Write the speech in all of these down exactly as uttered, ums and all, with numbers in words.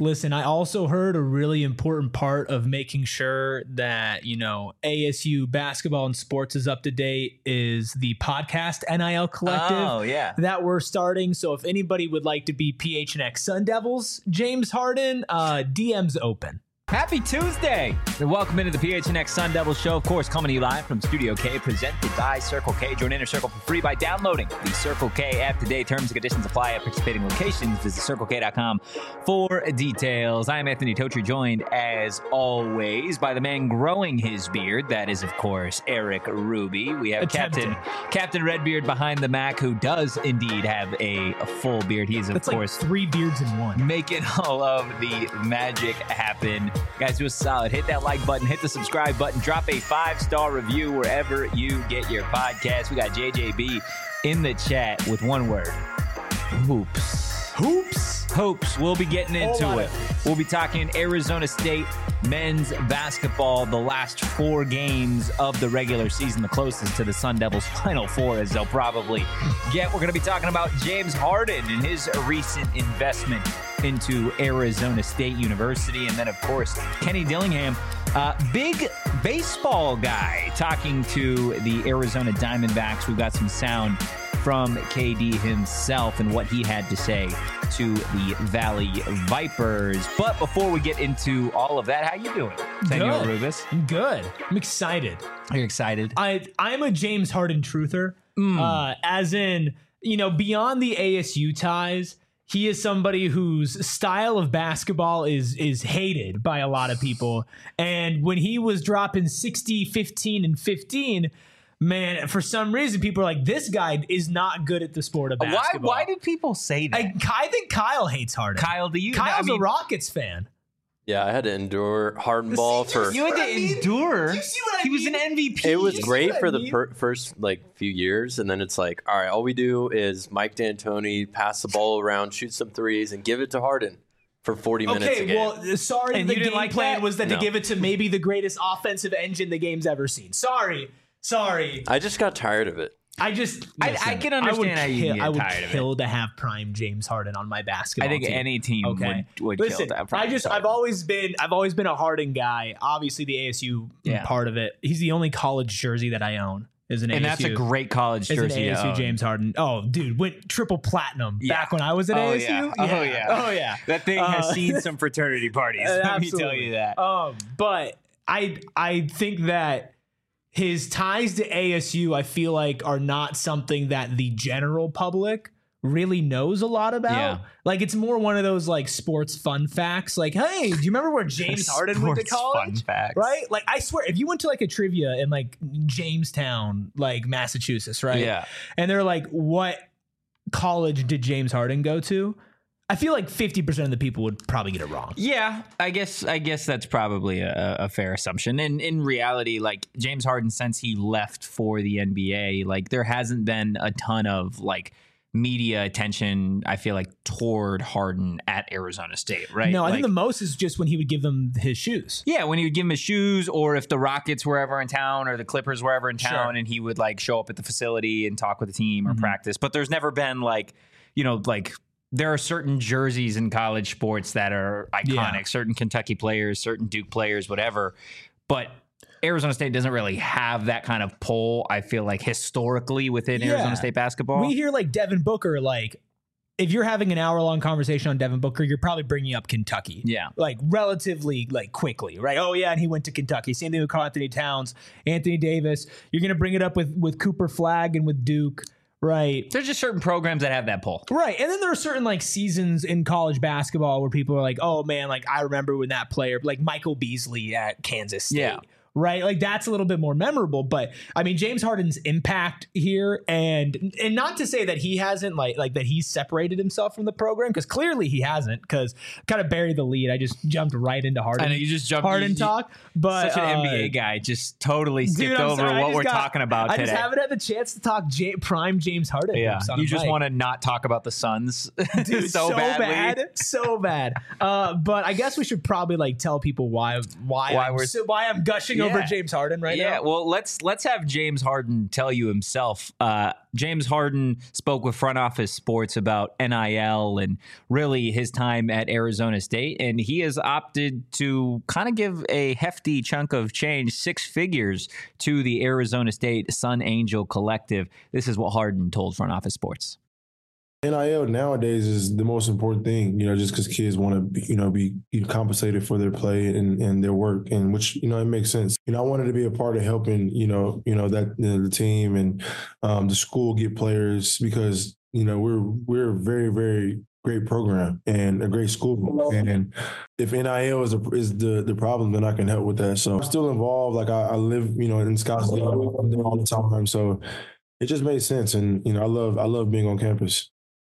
Listen, I also heard a really important part of making sure that, you know, A S U basketball and sports is up to date is the podcast N I L Collective oh, yeah. that we're starting. So if anybody would like to be P H N X Sun Devils, James Harden, uh, D Ms open. Happy Tuesday, and welcome into the P H N X Sun Devils show, of course, coming to you live from Studio K, presented by Circle K. Join Inner Circle for free by downloading the Circle K app today. Terms and conditions apply at participating locations. Visit circle k dot com for details. I am Anthony Totri, joined, as always, by the man growing his beard. That is, of course, Eric Ruby. We have Captain Captain Redbeard behind the Mac, who does indeed have a, a full beard. He is, of That's course, like three beards in one. Making all of the magic happen. Guys, do us a solid. Hit that like button, hit the subscribe button, drop a five-star review wherever you get your podcast. We got J J B in the chat with one word. Hoops. Hoops? Hoops. We'll be getting into it. We'll be talking Arizona State men's basketball, the last four games of the regular season, the closest to the Sun Devils' Final Four as they'll probably get. We're going to be talking about James Harden and his recent investment into Arizona State University. And then, of course, Kenny Dillingham, uh, big baseball guy, talking to the Arizona Diamondbacks. We've got some sound from K D himself and what he had to say to the Valley Vipers. But before we get into all of that, how you doing, Senor Rubis? I'm good. I'm excited. You're excited? I, I'm a James Harden truther, Mm. uh, as in, you know, beyond the A S U ties, he is somebody whose style of basketball is is hated by a lot of people. And when he was dropping sixty, fifteen, and fifteen, man, for some reason, people are like, this guy is not good at the sport of basketball. Why, why did people say that? I, I think Kyle hates Harden. Kyle, do you? Kyle's I mean, a Rockets fan. Yeah, I had to endure Harden ball for. You had to I mean? endure. Do you see what I he was mean? an M V P. It was You see great what I for the mean? per- first like few years, and then it's like, all right, all we do is Mike D'Antoni pass the ball around, shoot some threes, and give it to Harden for forty minutes a Okay, game. well, sorry, And the you didn't game like plan that? was that No. to give it to maybe the greatest offensive engine the game's ever seen. Sorry, sorry. I just got tired of it. I just I- listen, I can understand would how you kill, get I would tired of it. kill to have prime James Harden on my basketball I think team. any team Okay. would, would Listen, kill that. I just I've always been I've always been a Harden guy. Obviously, the A S U Yeah. part of it. He's the only college jersey that I own. Is an and A S U. that's a great college Is an jersey. A S U to own. James Harden. Oh, dude, went triple platinum Yeah. back when I was at Oh, A S U. yeah. Oh, yeah. Oh yeah. That thing has Uh, seen some fraternity parties. Uh, Let me tell absolutely. you that. Um, but I I think that his ties to A S U, I feel like, are not something that the general public really knows a lot about. Yeah. Like, it's more one of those like sports fun facts. Like, hey, do you remember where James Harden went to Sports college? Fun facts. Right? Like, I swear, if you went to like a trivia in like Jamestown, like Massachusetts, right? Yeah. And they're like, what college did James Harden go to? I feel like fifty percent of the people would probably get it wrong. Yeah, I guess I guess that's probably a, a fair assumption. And in reality, like James Harden, since he left for the N B A, like there hasn't been a ton of like media attention, I feel like, toward Harden at Arizona State, right? No, I like, think the most is just when he would give them his shoes. yeah, when he would give him his shoes, or if the Rockets were ever in town, or the Clippers were ever in town, Sure. and he would like show up at the facility and talk with the team or Mhm. practice. But there's never been like, you know, like there are certain jerseys in college sports that are iconic, Yeah. certain Kentucky players, certain Duke players, whatever. But Arizona State doesn't really have that kind of pull, I feel like, historically within Yeah. Arizona State basketball. We hear like Devin Booker, like if you're having an hour long conversation on Devin Booker, you're probably bringing up Kentucky. yeah. Like relatively like quickly, right? Oh yeah, and he went to Kentucky. Same thing with Karl Anthony Towns, Anthony Davis. You're gonna bring it up with with Cooper Flagg and with Duke, right? There's just certain programs that have that pull. Right. And then there are certain like seasons in college basketball where people are like, oh man, like I remember when that player, like Michael Beasley at Kansas State. Yeah. Right. Like that's a little bit more memorable. But I mean, James Harden's impact here, and and not to say that he hasn't like like that he's separated himself from the program, because clearly he hasn't, because kind of buried the lead. I just jumped right into Harden. I know you just jumped Harden you- talk. But Such an uh, N B A guy, just totally skipped dude, I'm over sorry, I what just we're got- talking about I today. just haven't had the chance to talk J- prime James Harden. Yeah, hoops on you a just mic. want to not talk about the Suns Dude, so, so, badly. bad, so bad. Uh, but I guess we should probably like tell people why why Why I'm, we're- so, why I'm gushing Yeah. over James Harden right yeah, now. well, let's let's have James Harden tell you himself. Uh, James Harden spoke with Front Office Sports about N I L and really his time at Arizona State, and he has opted to kind of give a hefty chunk of change, six figures, to the Arizona State Sun Angel Collective. This is what Harden told Front Office Sports. N I L nowadays is the most important thing, you know, just because kids want to, be, you know, be compensated for their play and, and their work, and which, you know, it makes sense. You know, I wanted to be a part of helping, you know, you know that you know, the team and um, the school get players because, you know, we're we're a very very great program and a great school. And if N I L is a, is the the problem, then I can help with that. So I'm still involved. Like I, I live, you know, in Scottsdale. I'm there all the time. So it just made sense, and you know, I love I love being on campus.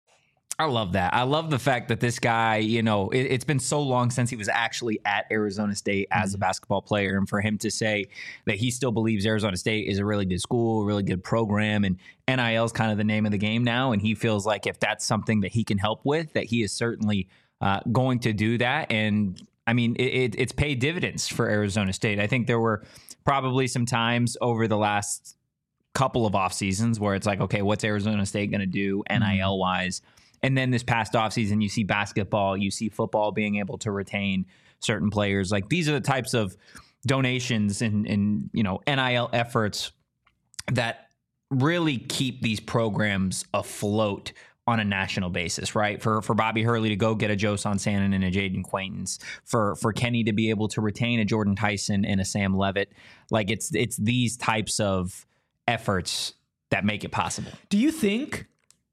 I love that. I love the fact that this guy, you know, it, it's been so long since he was actually at Arizona State as a basketball player. And for him to say that he still believes Arizona State is a really good school, a really good program, and N I L is kind of the name of the game now. And he feels like if that's something that he can help with, that he is certainly uh, going to do that. And I mean, it, it, it's paid dividends for Arizona State. I think there were probably some times over the last couple of off seasons where it's like, okay, what's Arizona State going to do N I L wise? And then this past offseason, you see basketball, you see football being able to retain certain players. Like these are the types of donations and, and you know, N I L efforts that really keep these programs afloat on a national basis, right? For for Bobby Hurley to go get a Joe Sonsannon and a Jaden Quaintance, for for Kenny to be able to retain a Jordan Tyson and a Sam Levitt. Like it's it's these types of efforts that make it possible. Do you think...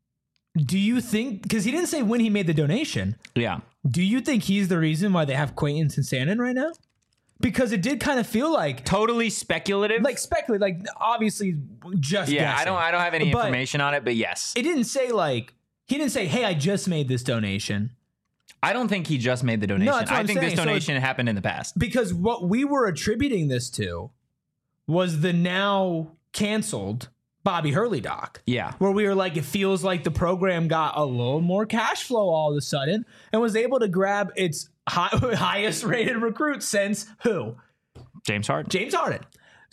Do you think, because he didn't say when he made the donation. Yeah. Do you think he's the reason why they have Quaintance and Sannon right now? Because it did kind of feel like totally speculative. Like speculate, like obviously just yeah. guessing. I don't. I don't have any But information on it, but yes, it didn't say like he didn't say, "Hey, I just made this donation." I don't think he just made the donation. No, that's what I I'm think saying. this So donation happened in the past. Because what we were attributing this to was the now canceled Bobby Hurley doc. Yeah. Where we were like, it feels like the program got a little more cash flow all of a sudden and was able to grab its high, highest rated recruit since who? James Harden. James Harden.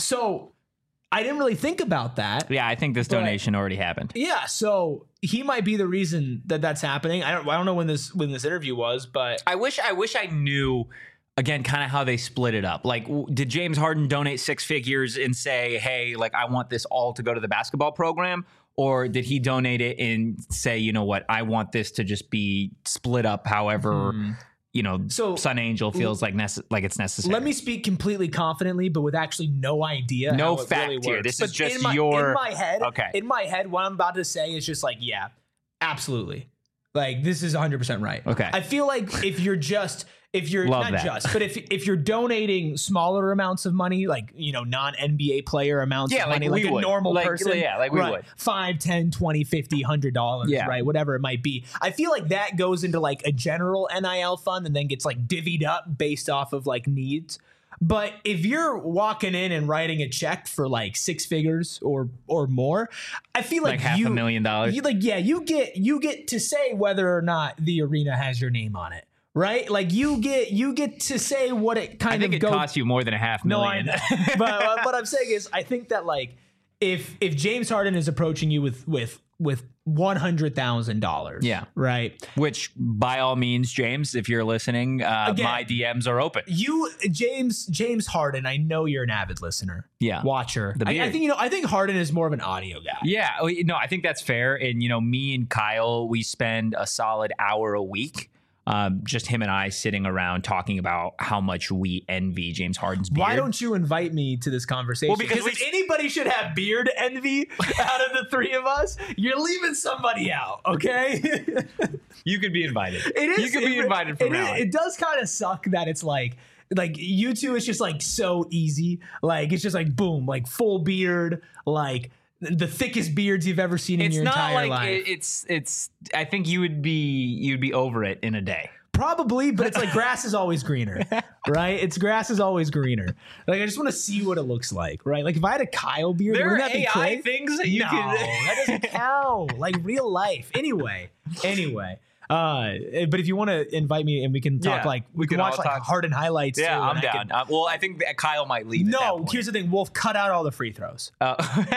So I didn't really think about that. Yeah, I think this donation already happened. Yeah, so he might be the reason that that's happening. I don't I don't know when this when this interview was, but I wish I wish I knew again, kind of how they split it up. Like, w- did James Harden donate six figures and say, hey, like, I want this all to go to the basketball program? Or did he donate it and say, you know what, I want this to just be split up however, hmm. you know, so, Sun Angel feels like nece- like it's necessary? Let me speak completely confidently, but with actually no idea. No how it fact really here. works. This but is just in my, your... In my head, okay. in my head, what I'm about to say is just like, yeah, absolutely. Like, this is one hundred percent right. Okay. I feel like if you're just... If you're Love not that. just, but if if you're donating smaller amounts of money, like, you know, non N B A player amounts yeah, of like money, like we a would. normal like, person, yeah, like we right, would, five, ten, twenty, fifty, one hundred dollars, yeah. right, whatever it might be. I feel like that goes into like a general N I L fund and then gets like divvied up based off of like needs. But if you're walking in and writing a check for like six figures or or more, I feel like, like half you, a million dollars. You, like yeah, you get you get to say whether or not the arena has your name on it. Right, like you get you get to say what it kind I think of it goes. costs you more than a half million. No, I know. But uh, what I'm saying is, I think that like if if James Harden is approaching you with with with one hundred thousand dollars, yeah, right. Which, by all means, James, if you're listening, uh, Again, my D Ms are open. You, James James Harden, I know you're an avid listener, yeah, watcher. I, I think you know. I think Harden is more of an audio guy. Yeah, no, I think that's fair. And you know, me and Kyle, we spend a solid hour a week. Um, just him and I sitting around talking about how much we envy James Harden's beard. Why don't you invite me to this conversation? Well, because if anybody should have beard envy out of the three of us, you're leaving somebody out, okay? You could be invited. It is. You could be it, invited from it, now on. It does kind of suck that it's like, like you two, it's just like so easy. Like it's just like boom, like full beard, like the thickest beards you've ever seen in it's your not entire like life. It, it's it's. I think you would be you'd be over it in a day. Probably, but it's like grass is always greener, right? It's grass is always greener. Like I just want to see what it looks like, right? Like if I had a Kyle beard, there wouldn't are that be A I crazy? things that you no, can. that doesn't count. Like real life. Anyway, anyway. Uh, but if you want to invite me and we can talk, Yeah, like we, we can can watch all like talk- Harden highlights. Yeah, too, I'm and I down. can- Uh, well, I think that Kyle might leave. at that no, point. here's the thing. Wolf, cut out all the free throws. Uh,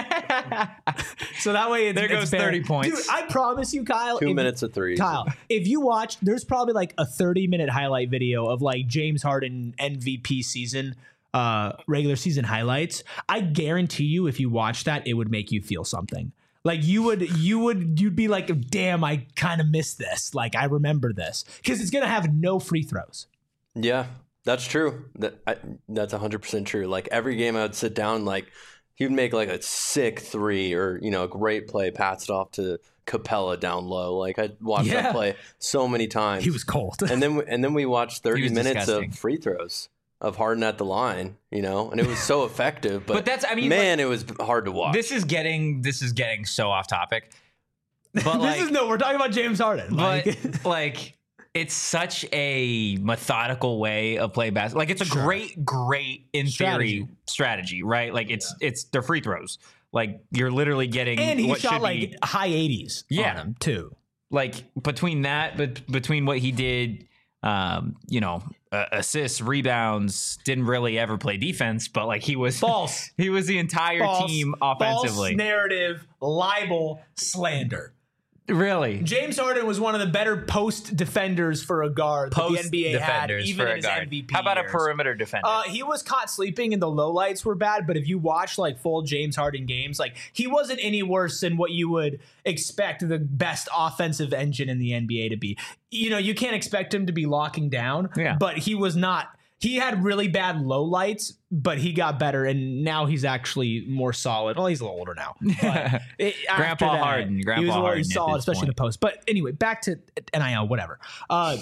So that way it's, There it's goes fair. thirty points. Dude, I promise you, Kyle. Two if- minutes of threes. Kyle, if you watch, there's probably like a thirty minute highlight video of like James Harden M V P season, uh, regular season highlights. I guarantee you, if you watch that, it would make you feel something. Like you would, you would, you'd be like, damn, I kind of missed this. Like I remember this because it's gonna have no free throws. Yeah, that's true. That I, that's one hundred percent true. Like every game I would sit down, like he would make like a sick three or, you know, a great play, pass it off to Capella down low. Like I watched Yeah. that play so many times. He was cold. and then and then we watched thirty was minutes disgusting. of free throws of Harden at the line, you know, and it was so effective. But, But that's- I mean, man, it was hard to watch. this is getting this is getting so off topic. But like, this is no, we're talking about James Harden. but Like, like it's such a methodical way of playing basketball. Like it's a Sure. great, great in Strategy. theory strategy, right? Like it's it's they're free throws. Like you're literally getting and he what shot should like be high eighties. Yeah. on him too. like between that, but between what he did, um, you know, uh, assists, rebounds, didn't really ever play defense, but like he was False. he was the entire False, team false offensively. narrative, libel, slander. Really, James Harden was one of the better post defenders for a guard that the post N B A had, defenders even for in a his guard. M V P How about years. a perimeter defender? Uh, he was caught sleeping and the lowlights were bad, but if you watch like full James Harden games, like he wasn't any worse than what you would expect the best offensive engine in the N B A to be. You know, you can't expect him to be locking down, Yeah. but he was not. He had really bad lowlights, but he got better, and now he's actually more solid. Well, he's a little older now. But it, after Grandpa that, Harden, he Grandpa was really Harden at solid, this especially in the point. post. But anyway, back to N I L, whatever. Uh,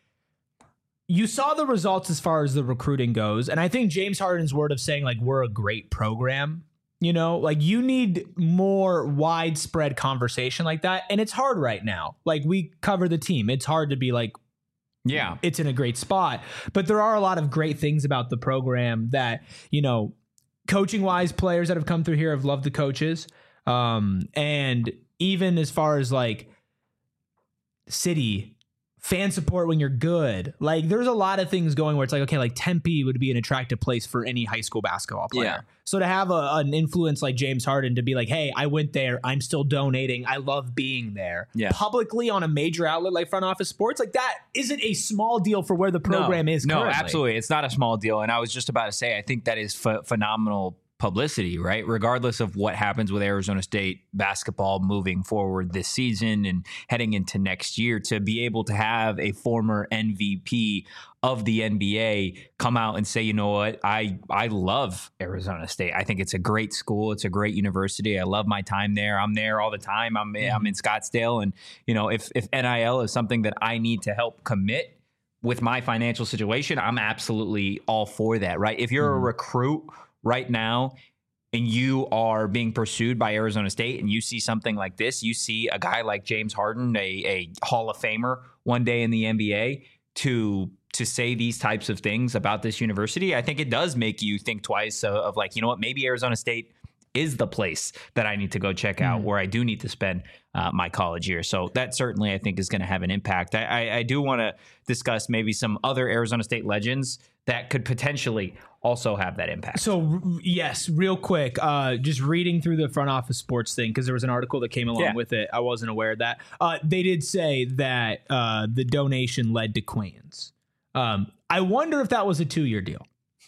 you saw the results as far as the recruiting goes, and I think James Harden's word of saying like we're a great program, you know, like you need more widespread conversation like that, and it's hard right now. Like we cover the team, it's hard to be like yeah, it's in a great spot, but there are a lot of great things about the program that, you know, coaching wise, players that have come through here have loved the coaches, um, and even as far as like city fan support when you're good, like there's a lot of things going where it's like, okay, like Tempe would be an attractive place for any high school basketball player. Yeah. So to have a, an influence like James Harden to be like, hey, I went there, I'm still donating, I love being there, Yeah. publicly on a major outlet like Front Office Sports, like that isn't a small deal for where the program no, is No, currently. absolutely. It's not a small deal. And I was just about to say, I think that is ph- phenomenal publicity, right? Regardless of what happens with Arizona State basketball moving forward this season and heading into next year, to be able to have a former M V P of the N B A come out and say, you know what, I I love Arizona State. I think it's a great school. It's a great university. I love my time there. I'm there all the time. I'm Mm-hmm. I'm in Scottsdale, and you know, if if N I L is something that I need to help commit with my financial situation, I'm absolutely all for that, right? If you're Mhm. a recruit right now and you are being pursued by Arizona State and you see something like this, you see a guy like James Harden, a, a Hall of Famer one day in the N B A, to to say these types of things about this university, I think it does make you think twice of, of like, you know what, maybe Arizona State is the place that I need to go check out, Mm. where I do need to spend uh, my college year. So that certainly, I think, is going to have an impact. I, I, I do want to discuss maybe some other Arizona State legends that could potentially also have that impact. So r- yes, real quick, uh, just reading through the Front Office Sports thing, because there was an article that came along Yeah. with it. I wasn't aware of that. Uh, they did say that uh, the donation led to Queens. Um, I wonder if that was a two-year deal.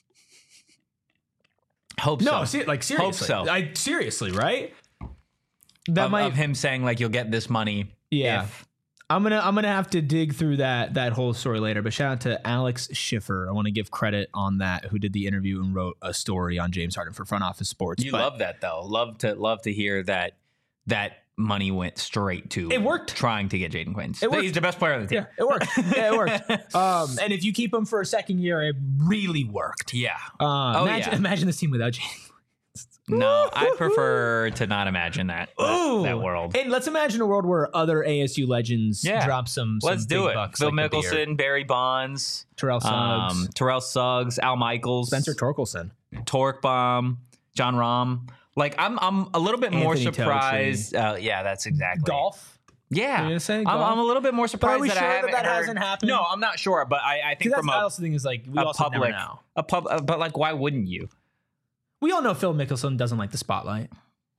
Hope No, so. see, like seriously, so. I seriously, right? That Of, might, of him saying like, you'll get this money. yeah. if- I'm gonna I'm gonna have to dig through that that whole story later. But shout out to Alex Schiffer. I want to give credit on that, who did the interview and wrote a story on James Harden for Front Office Sports. you But love that though. Love to love to hear that that money went straight to It worked. trying to get Jaden Quains. It worked. He's the best player on the team. Yeah, it worked. Yeah, it worked. Um, and if you keep him for a second year, it really worked. Yeah. Uh, Oh, imagine, yeah. imagine this team without James. No, I prefer to not imagine that that, Ooh. that world. And let's imagine a world where other A S U legends Yeah. drop some. some Let's big do it. Bucks Phil like the beer. Mickelson, Barry Bonds, Terrell Suggs, um, Terrell Suggs, Al Michaels, Spencer Torkelson. Torque Bomb, John Rahm. Like I'm, I'm a little bit more Anthony surprised. Uh, yeah, that's exactly Golf. Yeah, gonna say I'm, golf? I'm a little bit more surprised we that sure I that haven't that heard- hasn't happened? No, I'm not sure, but I, I think Because from that's a, the also thing is like we a also public, never know. a pub, uh, but like, why wouldn't you? We all know Phil Mickelson doesn't like the spotlight.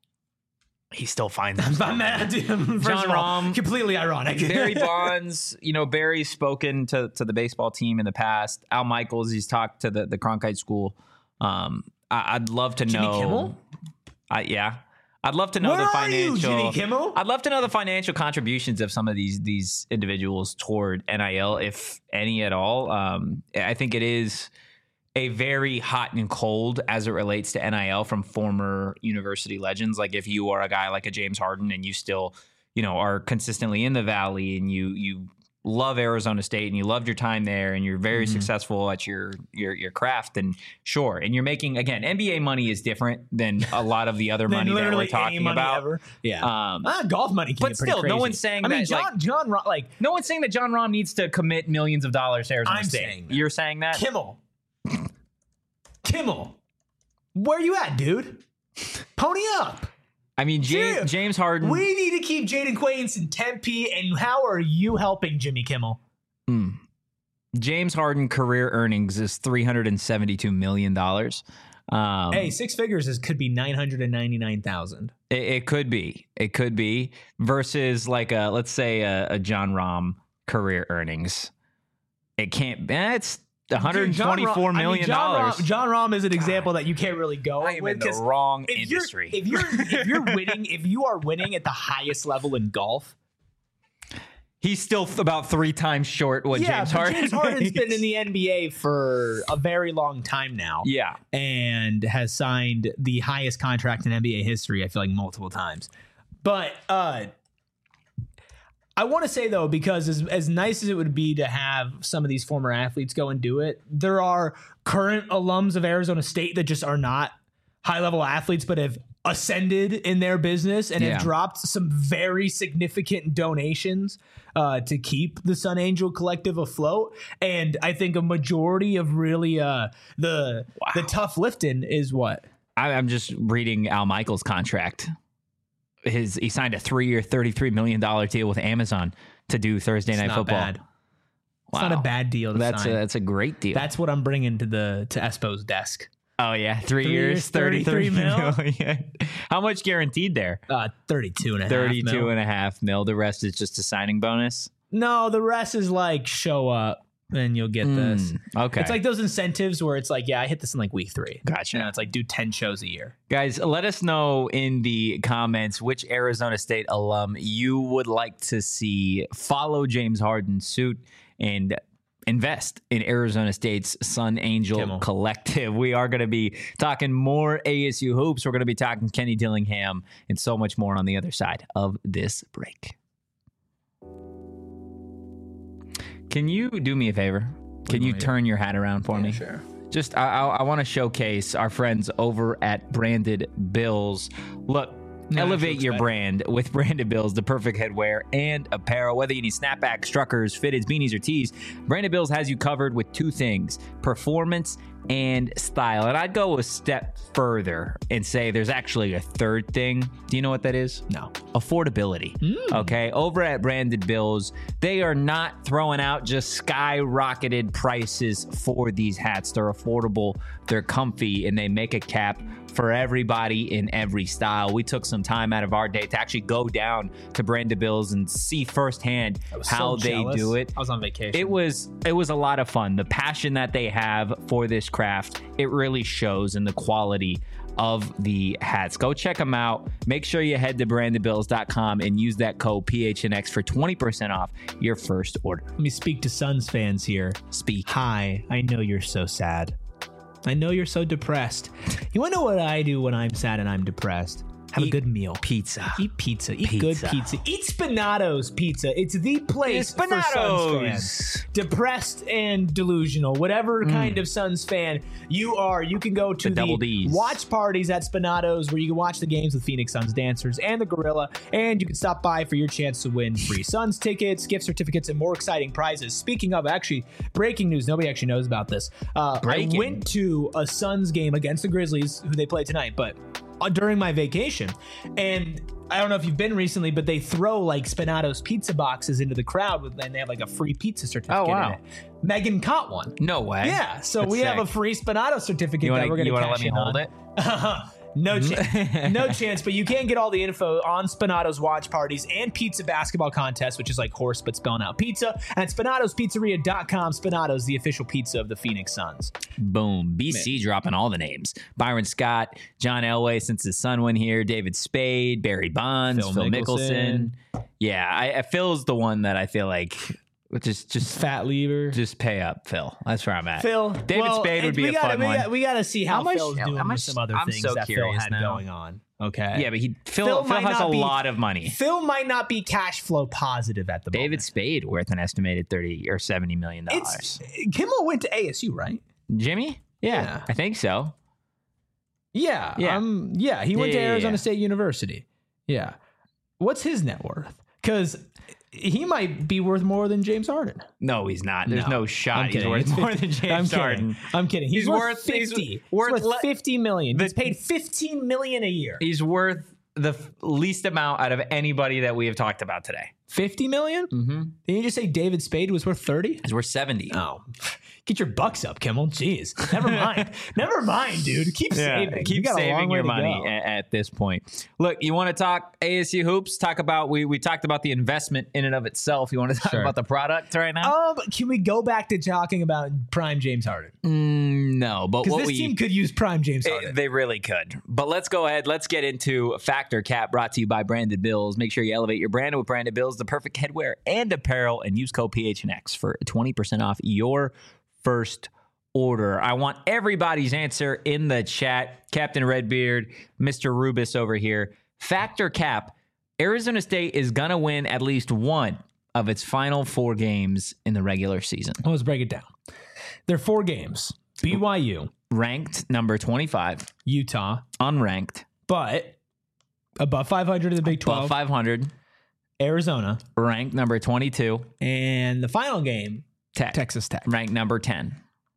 He still finds it. I'm mad at him. First John of all, Rahm, completely ironic. Barry Bonds, you know, Barry's spoken to, to the baseball team in the past. Al Michaels, he's talked to the, the Cronkite School. Um, I, I'd love to Jimmy know. Kimmel? I, yeah. I'd love to know Where the are you, financial. Jimmy Kimmel? I'd love to know the financial contributions of some of these these individuals toward N I L, if any at all. Um, I think it is a very hot and cold as it relates to N I L from former university legends. Like if you are a guy like a James Harden and you still, you know, are consistently in the Valley and you you love Arizona State and you loved your time there and you're very Mm-hmm. successful at your your your craft, then sure. And you're making, again, N B A money is different than a lot of the other Than money that we're literally any talking money about. ever. Yeah. Um, Ah, golf money can but get pretty still, no crazy. one's saying I mean, that, John, like- John, Ro- like No one's saying that John Rahm needs to commit millions of dollars to Arizona I'm State. saying that. You're saying that? Kimmel. Kimmel. Where you at, dude? Pony up. I mean, James, Serious. James Harden. We need to keep Jaden Quains in Tempe, and how are you helping Jimmy Kimmel? Mm. James Harden career earnings is three hundred seventy-two million dollars. Um, Hey, six figures is could be nine hundred ninety-nine thousand. it, it could be. It could be. Versus like a, let's say a, a John Rahm career earnings. It can't be. Eh, it's one hundred twenty-four million dollars. John Rahm is an example that you can't really go I am with in the 'cause wrong if you're- industry. If you're if you're winning, if you are winning at the highest level in golf, He's still th- about three times short what yeah, James but Harden James Harden's makes. been in the N B A for a very long time now. Yeah. And has signed the highest contract in N B A history, I feel like multiple times. But uh, I want to say, though, because as, as nice as it would be to have some of these former athletes go and do it, there are current alums of Arizona State that just are not high-level athletes but have ascended in their business and Yeah. have dropped some very significant donations uh, to keep the Sun Angel Collective afloat. And I think a majority of really uh, the the tough lifting is what? I, I'm just reading Al Michaels' contract. His he signed a three-year, thirty-three million dollars deal with Amazon to do Thursday Night It's not Football. bad. It's not a Wow. bad deal to That's a, sign. that's a great deal. That's what I'm bringing to the to Espo's desk. oh yeah, three, Three years, years, thirty-three thirty-three million. How much guaranteed there? Uh, thirty-two and a half. thirty-two mil. and a half mil. The rest is just a signing bonus. No, the rest is like show up and you'll get this. Mm, okay. It's like those incentives where it's like, yeah, I hit this in like week three. Gotcha. You know, it's like do ten shows a year. Guys, let us know in the comments which Arizona State alum you would like to see follow James Harden's suit and invest in Arizona State's Sun Angel Kimmel. Collective. We are going to be talking more A S U hoops. We're going to be talking Kenny Dillingham and so much more on the other side of this break. Can you do me a favor? Can you turn your hat around for me? Sure. Just, I, I, I want to showcase our friends over at Branded Bills. Look, No, elevate that's your bad. brand with Branded Bills, the perfect headwear and apparel. Whether you need snapbacks, truckers, fitteds, beanies, or tees, Branded Bills has you covered with two things: performance and style. And I'd go a step further and say there's actually a third thing. Do you know what that is? No. Affordability. Okay. Over at Branded Bills, they are not throwing out just skyrocketed prices for these hats. They're affordable, they're comfy, and they make a cap for everybody in every style. We took some time out of our day to actually go down to Branded Bills and see firsthand I was how so they jealous. do it. I was on vacation. It was it was a lot of fun. The passion that they have for this craft, it really shows in the quality of the hats. Go check them out. Make sure you head to branded bills dot com and use that code P H N X for twenty percent off your first order. Let me speak to Suns fans here. Speak. Hi, I know you're so sad. I know you're so depressed. You want to know what I do when I'm sad and I'm depressed? Have Eat a good meal. Pizza. Eat pizza. Eat Pizza. good pizza. Eat Spinato's Pizza. It's the place for Suns fans. Depressed and delusional, whatever kind of Suns fan you are, you can go to The the, double Ds. watch parties at Spinato's where you can watch the games with Phoenix Suns dancers and the Gorilla, and you can stop by for your chance to win free Suns tickets, gift certificates, and more exciting prizes. Speaking of, actually, breaking news, nobody actually knows about this. Uh, I Breaking. went to a Suns game against the Grizzlies, who they play tonight, but uh, during my vacation, and I don't know if you've been recently, but they throw like Spinato's pizza boxes into the crowd with, and they have like a free pizza certificate. Oh, wow. in it. Megan caught one. No way. Yeah, so That's we have sick. a free Spinato certificate You that we're want going to to let cash me in hold on. it? No chance. No chance, but you can get all the info on Spinato's watch parties and pizza basketball contest, which is like horse but spelling out pizza, at spinatos pizzeria dot com. Spinato's, the official pizza of the Phoenix Suns. Boom. B C Man. Dropping all the names. Byron Scott, John Elway since his son went here, David Spade, Barry Bonds, Phil Phil, Mickelson. Mickelson. Yeah, I, I Phil's the one that I feel like just just Fat Lever. just pay up, Phil. That's where I'm at. Phil. David well, Spade would be we a gotta, fun we one. Gotta, we got to see how, How much- Phil's doing how much- with some other I'm things so that Phil curious had now. going on. Okay. Yeah, but he Phil, Phil Phil, might has not a be- lot of money. Phil might not be cash flow positive at the David moment. Spade worth an estimated thirty or seventy million dollars. It's Kimmel went to A S U, right? Jimmy? Yeah, Yeah. I think so. Yeah. Yeah. Um, yeah. He went Yeah, to yeah, Arizona yeah. State University. Yeah. What's his net worth? Because he might be worth more than James Harden. No, he's not. There's no, I'm shot he's kidding. worth It's more fifty than James I'm kidding. Harden. I'm kidding. He's, He's worth worth- he's fifty. He's worth worth, le- fifty million. the- He's paid fifteen million a year. He's worth the f- least amount out of anybody that we have talked about today. Fifty million? Mm-hmm. Didn't you just say David Spade was worth thirty? He's worth seventy. Oh, get your bucks up, Kimmel. Jeez, never mind. Never mind, dude. Keep saving. You Keep got a long saving way your to money go. at, at this point. Look, you want to talk A S U hoops? Talk about we we talked about the investment in and of itself. You want to talk Sure. about the product right now? Um, can we go back to talking about prime James Harden? Mm, no, but Because what this we team could use prime James Eh, Harden. They really could. But let's go ahead. Let's get into Factor Cap, brought to you by Branded Bills. Make sure you elevate your brand with Branded Bills, the perfect headwear and apparel, and use code P H N X for twenty percent off your first order. I want everybody's answer in the chat. Captain Redbeard, Mister Rubis over here. Factor Cap, Arizona State is going to win at least one of its final four games in the regular season. Well, let's break it down. There are four games. B Y U, Ranked number twenty-five, Utah, unranked, but above five hundred in the Big above twelve, five hundred, Arizona, ranked number twenty-two, and the final game, Tech, Texas Tech. ranked number ten,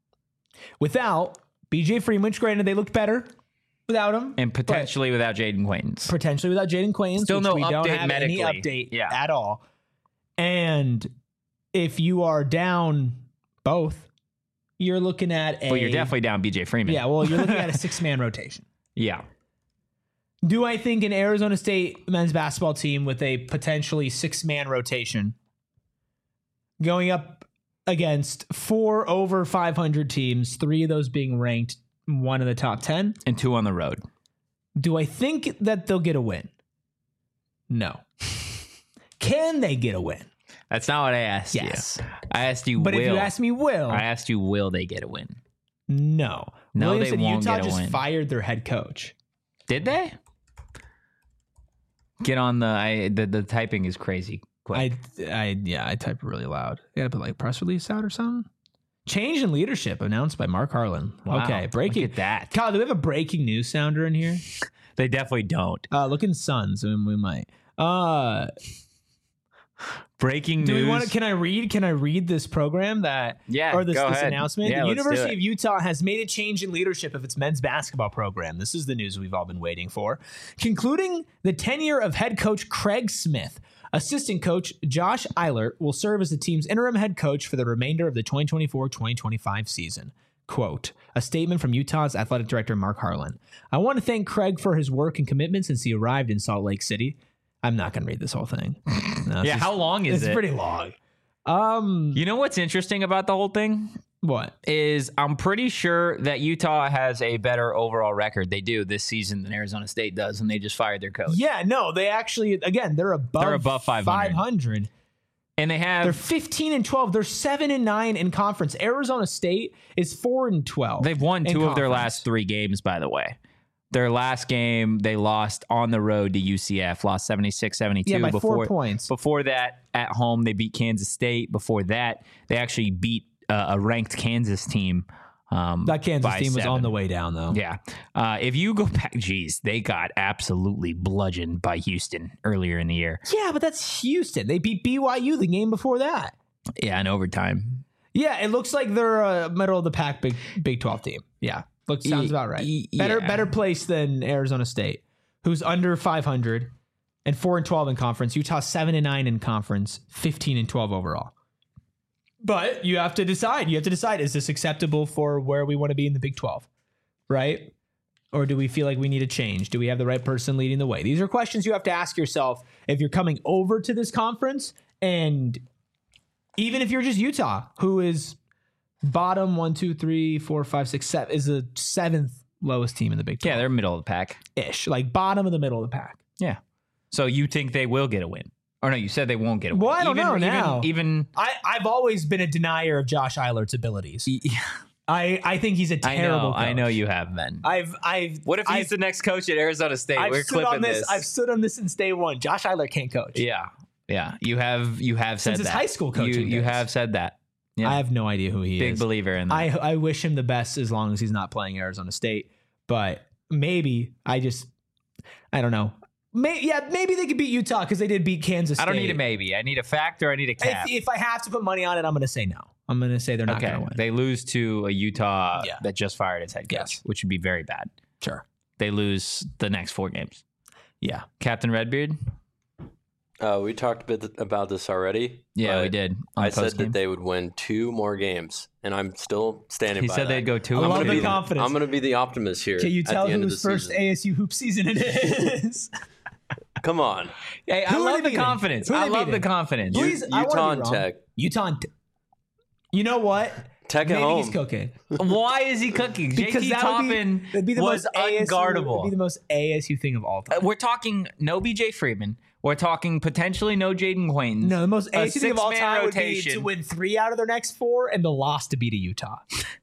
Without B J Freeman, which granted they looked better without him, and potentially without Jaden Quaintance. potentially without Jaden Quaintance, Still which no we don't update have medically. any update Yeah. at all. And if you are down both, you're looking at a. Well, you're definitely down B J Freeman. Yeah, well, you're looking at a six-man rotation. Yeah. Do I think an Arizona State men's basketball team with a potentially six-man rotation going up against four over five hundred teams, three of those being ranked, one in the top ten, And two on the road. do I think that they'll get a win? No. Can they get a win? That's not what I asked Yes. you. I asked you But will. if you ask me, will, I asked you, will they get a win? no. No, Williams they said won't Utah get a just win. fired their head coach. Did they? Get on the I the, the typing is crazy. Quick. I, I, yeah, I type really loud. You gotta put like press release out or something. Change in leadership announced by Mark Harlan. Wow, Okay, breaking. Look at that. Kyle, do we have a breaking news sounder in here? They definitely don't. Uh, look in Suns, and we might. Uh, Breaking do news. we want to? Can I read? Can I read this program that? Yeah, Or this, go this ahead. announcement? Yeah, the let's do University it. of Utah has made a change in leadership of its men's basketball program. This is the news we've all been waiting for. Concluding the tenure of head coach Craig Smith, assistant coach Josh Eilert will serve as the team's interim head coach for the remainder of the twenty twenty-four twenty twenty-five season. Quote, a statement from Utah's athletic director, Mark Harlan. I want to thank Craig for his work and commitment since he arrived in Salt Lake City. I'm not going to read this whole thing. No, it's Yeah, just- how long is it's it? pretty long. Um, You know what's interesting about the whole thing? what? Is I'm pretty sure that Utah has a better overall record. They do this season than Arizona State does, and they just fired their coach. Yeah, no, they actually, again, they're above, They're above five hundred. five hundred. And they have They're fifteen and twelve. They're seven and nine in conference. Arizona State is four and twelve. They've won in two of their conference. last three games, by the way. Their last game, they lost on the road to U C F, lost seventy-six seventy-two. Yeah, by before, four points. Before that, at home, they beat Kansas State. Before that, they actually beat uh, a ranked Kansas team. Um, That Kansas by team was seven. on the way down, though. Yeah. Uh, if you go back, geez, they got absolutely bludgeoned by Houston earlier in the year. Yeah, but that's Houston. They beat B Y U the game before that. Yeah, in overtime. Yeah, it looks like they're a middle of the pack Big Big twelve team. Yeah, looks sounds Y- about right. y- Better yeah. better place than Arizona State, who's under five hundred. and four and twelve in conference. Utah seven and nine in conference, fifteen and twelve overall. But you have to decide. You have to decide: is this acceptable for where we want to be in the Big twelve, right? Or do we feel like we need a change? Do we have the right person leading the way? These are questions you have to ask yourself if you're coming over to this conference, and even if you're just Utah, who is bottom one, two, three, four, five, six, seven, is the seventh lowest team in the Big twelve. Yeah, they're middle of the pack. Ish, like bottom of the middle of the pack. Yeah. So you think they will get a win? Or no, you said they won't get a win. Well, I don't even, know even, now. Even I, I've always been a denier of Josh Eilert's abilities. Yeah. I, I think he's a I terrible know, coach. I know you have been. I've I've What if he's I've, the next coach at Arizona State? I've We're stood clipping on this, this. I've stood on this since day one. Josh Eiler can't coach. Yeah. Yeah. You have you have said Since his that. high school You, coaching you days. have said that. Yeah. I have no idea who he Big is. believer in that. I I wish him the best as long as he's not playing Arizona State. But maybe I just I don't know. May, yeah, maybe they could beat Utah because they did beat Kansas State. I don't need a maybe. I need a fact or I need a cap. If, if I have to put money on it, I'm going to say no. I'm going to say they're not Okay. going to win. They lose to a Utah Yeah. that just fired its head coach, Yes. which would be very bad. Sure. They lose the next four games. Yeah. Captain Redbeard? Uh, we talked a bit about this already. Yeah, but we did. on I the said postgame. that they would win two more games, and I'm still standing He by said that. they'd go two. I I'm love gonna the be confidence. I'm going to be the optimist here. Can you at tell the end of whose the first season. A S U hoop season it is? Come on, Hey, I Who are love they the beating? confidence. Who are I they love the beating? confidence. Please, I wanna Utah be and wrong. Tech. Utah. And Te- you know what? Tech at Maybe home. he's cooking. Why is he cooking? J T that would be- Toppin that'd be the was most A S U, unguardable. Would be the most A S U thing of all Uh, time. We're talking no B J Freeman. We're talking potentially no Jaden Quaintance. No, the most a A S U thing of all six-man time would be rotation. to win three out of their next four and the loss to beat a Utah.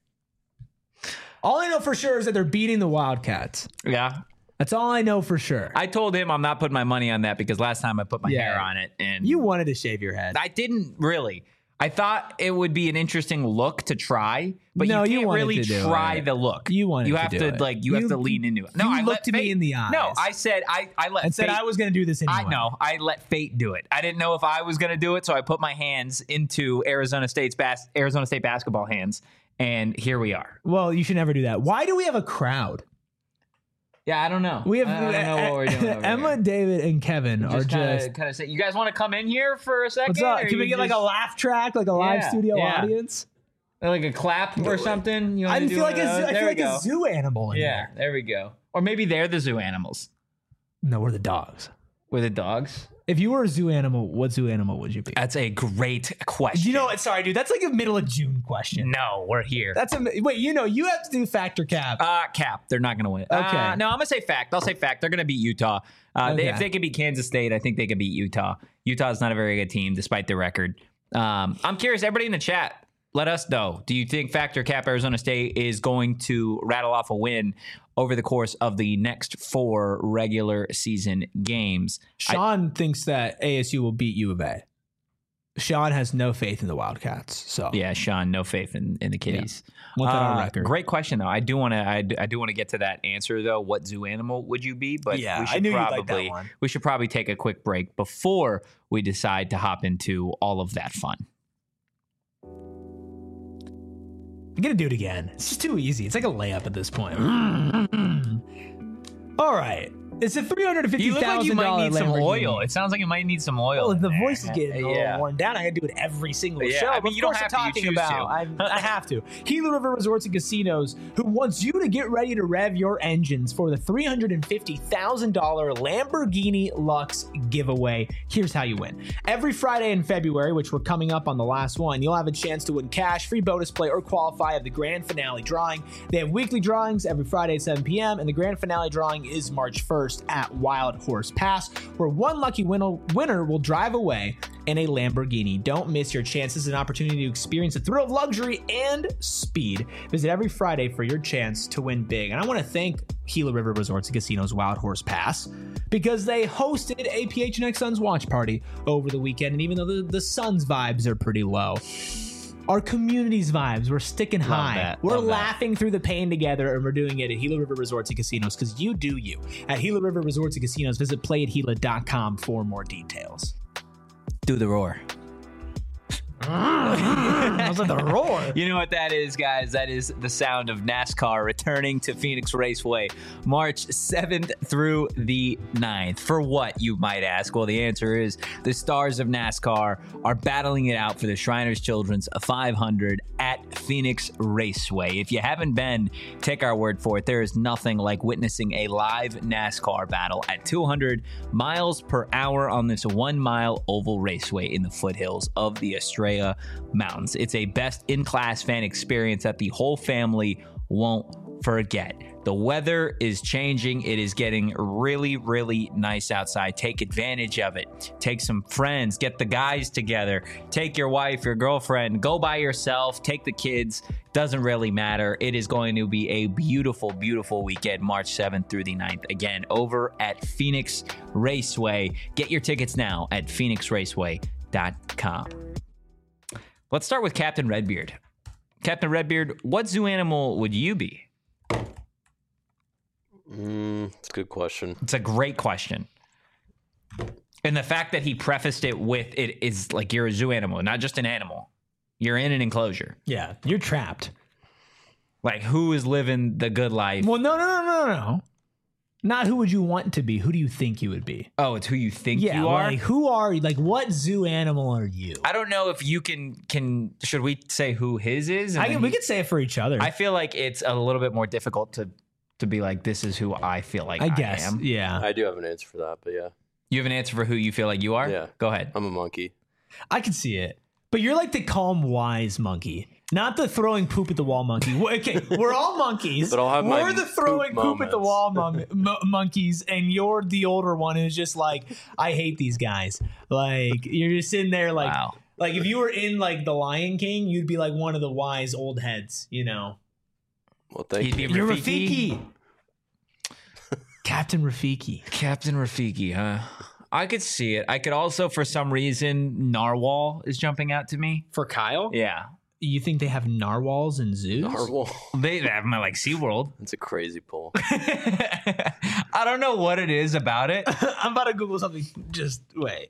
All I know for sure is that they're beating the Wildcats. Yeah. That's all I know for sure. I told him I'm not putting my money on that because last time I put my Yeah. hair on it and You wanted to shave your head. I didn't really. I thought it would be an interesting look to try, but No, you you can't wanted really to do try it. the look. You wanted You to have do to it. like you, have You- to lean into it. No, you I looked let to me fate, in the eyes. No, I said I I let and said fate, I was going to do this anyway. I know. I let fate do it. I didn't know if I was going to do it, so I put my hands into Arizona State's bas- Arizona State basketball hands, and here we are. Well, you should never do that. Why do we have a crowd? Yeah, I don't know. We have I don't know what we're doing. Over Emma, here. David, and Kevin are Just kind just. of kind of say, you guys want to come in here for a second? What's up? or Can we you get like a just- laugh track, like a live Yeah, studio yeah. audience? like a clap or something? You I wanna do feel like a one of zoo, those? I There feel we like go. a zoo animal in Yeah, here. there we go. Or maybe they're the zoo animals. No, we're the dogs. We're the dogs. If you were a zoo animal, what zoo animal would you be? That's a great question. You know what? Sorry, dude. That's like a middle of June question. No, we're here. That's a wait. You know, you have to do factor cap. Uh, cap. They're not going to win. Okay. Uh, no, I'm going to say fact. I'll say fact. They're going to beat Utah. Uh, they, Okay. if they can beat Kansas State, I think they can beat Utah. Utah's not a very good team, despite their record. Um, I'm curious, everybody in the chat, let us know. Do you think factor cap Arizona State is going to rattle off a win over the course of the next four regular season games? Sean thinks that A S U will beat U of A. Sean has no faith in the Wildcats. So Yeah, Sean, no faith in, in the Kitties. want that on Uh, record. Great question, though. I do want to. I do, I do want to get to that answer, though. What zoo animal would you be? But Yeah, we I should knew you'd like probably that one. we should probably take a quick break before we decide to hop into all of that fun. I'm gonna do it again. It's just too easy. It's like a layup at this point. All right. It's a three hundred and fifty You look like thousand you might dollar need some oil. It sounds like you might need some oil. Well, in the there. voice is getting a little Yeah. worn down. I gotta do it every single Yeah, show. I mean, But you don't of course have I'm to, you talking choose about. to. I, I have to. Gila River Resorts and Casinos, who wants you to get ready to rev your engines for the three hundred fifty thousand dollar Lamborghini Lux giveaway. Here's how you win. Every Friday in February, which we're coming up on the last one, you'll have a chance to win cash, free bonus play, or qualify at the grand finale drawing. They have weekly drawings every Friday at seven p.m., and the grand finale drawing is March first at Wild Horse Pass, where one lucky win- winner will drive away in a Lamborghini. Don't miss your chance. This is an opportunity to experience the thrill of luxury and speed. Visit every Friday for your chance to win big. And I want to thank Gila River Resorts and Casinos Wild Horse Pass because they hosted a P H N X Suns watch party over the weekend. And even though the, the Suns vibes are pretty low, our community's vibes, we're sticking Love high. that. We're Love that. laughing through the pain together, and we're doing it at Gila River Resorts and Casinos because you do you. At Gila River Resorts and Casinos, visit play at gila dot com for more details. Do the roar. I was like the roar. You know what that is, guys? That is the sound of NASCAR returning to Phoenix Raceway March seventh through the ninth. For what, you might ask? Well, the answer is the stars of NASCAR are battling it out for the Shriners Children's five hundred at Phoenix Raceway. If you haven't been, take our word for it. There is nothing like witnessing a live NASCAR battle at two hundred miles per hour on this one-mile oval raceway in the foothills of the Estrella Mountains. It's a best-in-class fan experience that the whole family won't forget. The weather is changing. It is getting really, really nice outside. Take advantage of it. Take some friends. Get the guys together. Take your wife, your girlfriend. Go by yourself. Take the kids. Doesn't really matter. It is going to be a beautiful, beautiful weekend, March seventh through the ninth. Again, over at Phoenix Raceway. Get your tickets now at phoenix raceway dot com. Let's start with Captain Redbeard. Captain Redbeard, what zoo animal would you be? Mm, it's a good question. It's a great question. And the fact that he prefaced it with it is like you're a zoo animal, not just an animal. You're in an enclosure. Yeah, you're trapped. Like, who is living the good life? Well, no, no, no, no, no. Not who would you want to be. Who do you think you would be? Oh, it's who you think yeah, you are? Like, who are you? Like, what zoo animal are you? I don't know if you can, can should we say who his is? And I then can, we he- could say it for each other. I feel like it's a little bit more difficult to, to be like, this is who I feel like I, I guess. am. Yeah. I do have an answer for that, but yeah, You have an answer for who you feel like you are? Yeah. Go ahead. I'm a monkey. I can see it. But you're like the calm, wise monkey, not the throwing poop at the wall monkey. Well, okay, we're all monkeys. But I'll have we're my the throwing poop poop, at the moments. wall mon- mo- monkeys, and you're the older one who's just like, I hate these guys. Like, you're just sitting there like, Wow. like if you were in like The Lion King, you'd be like one of the wise old heads, you know. Well, thank He'd you. be You're Rafiki? Rafiki. Captain Rafiki. Captain Rafiki, huh? I could see it. I could also, for some reason, Narwhal is jumping out to me. For Kyle? Yeah. You think they have narwhals in zoos? Narwhal. They have them at like SeaWorld. That's a crazy pull. I don't know what it is about it. I'm about to Google something. Just wait.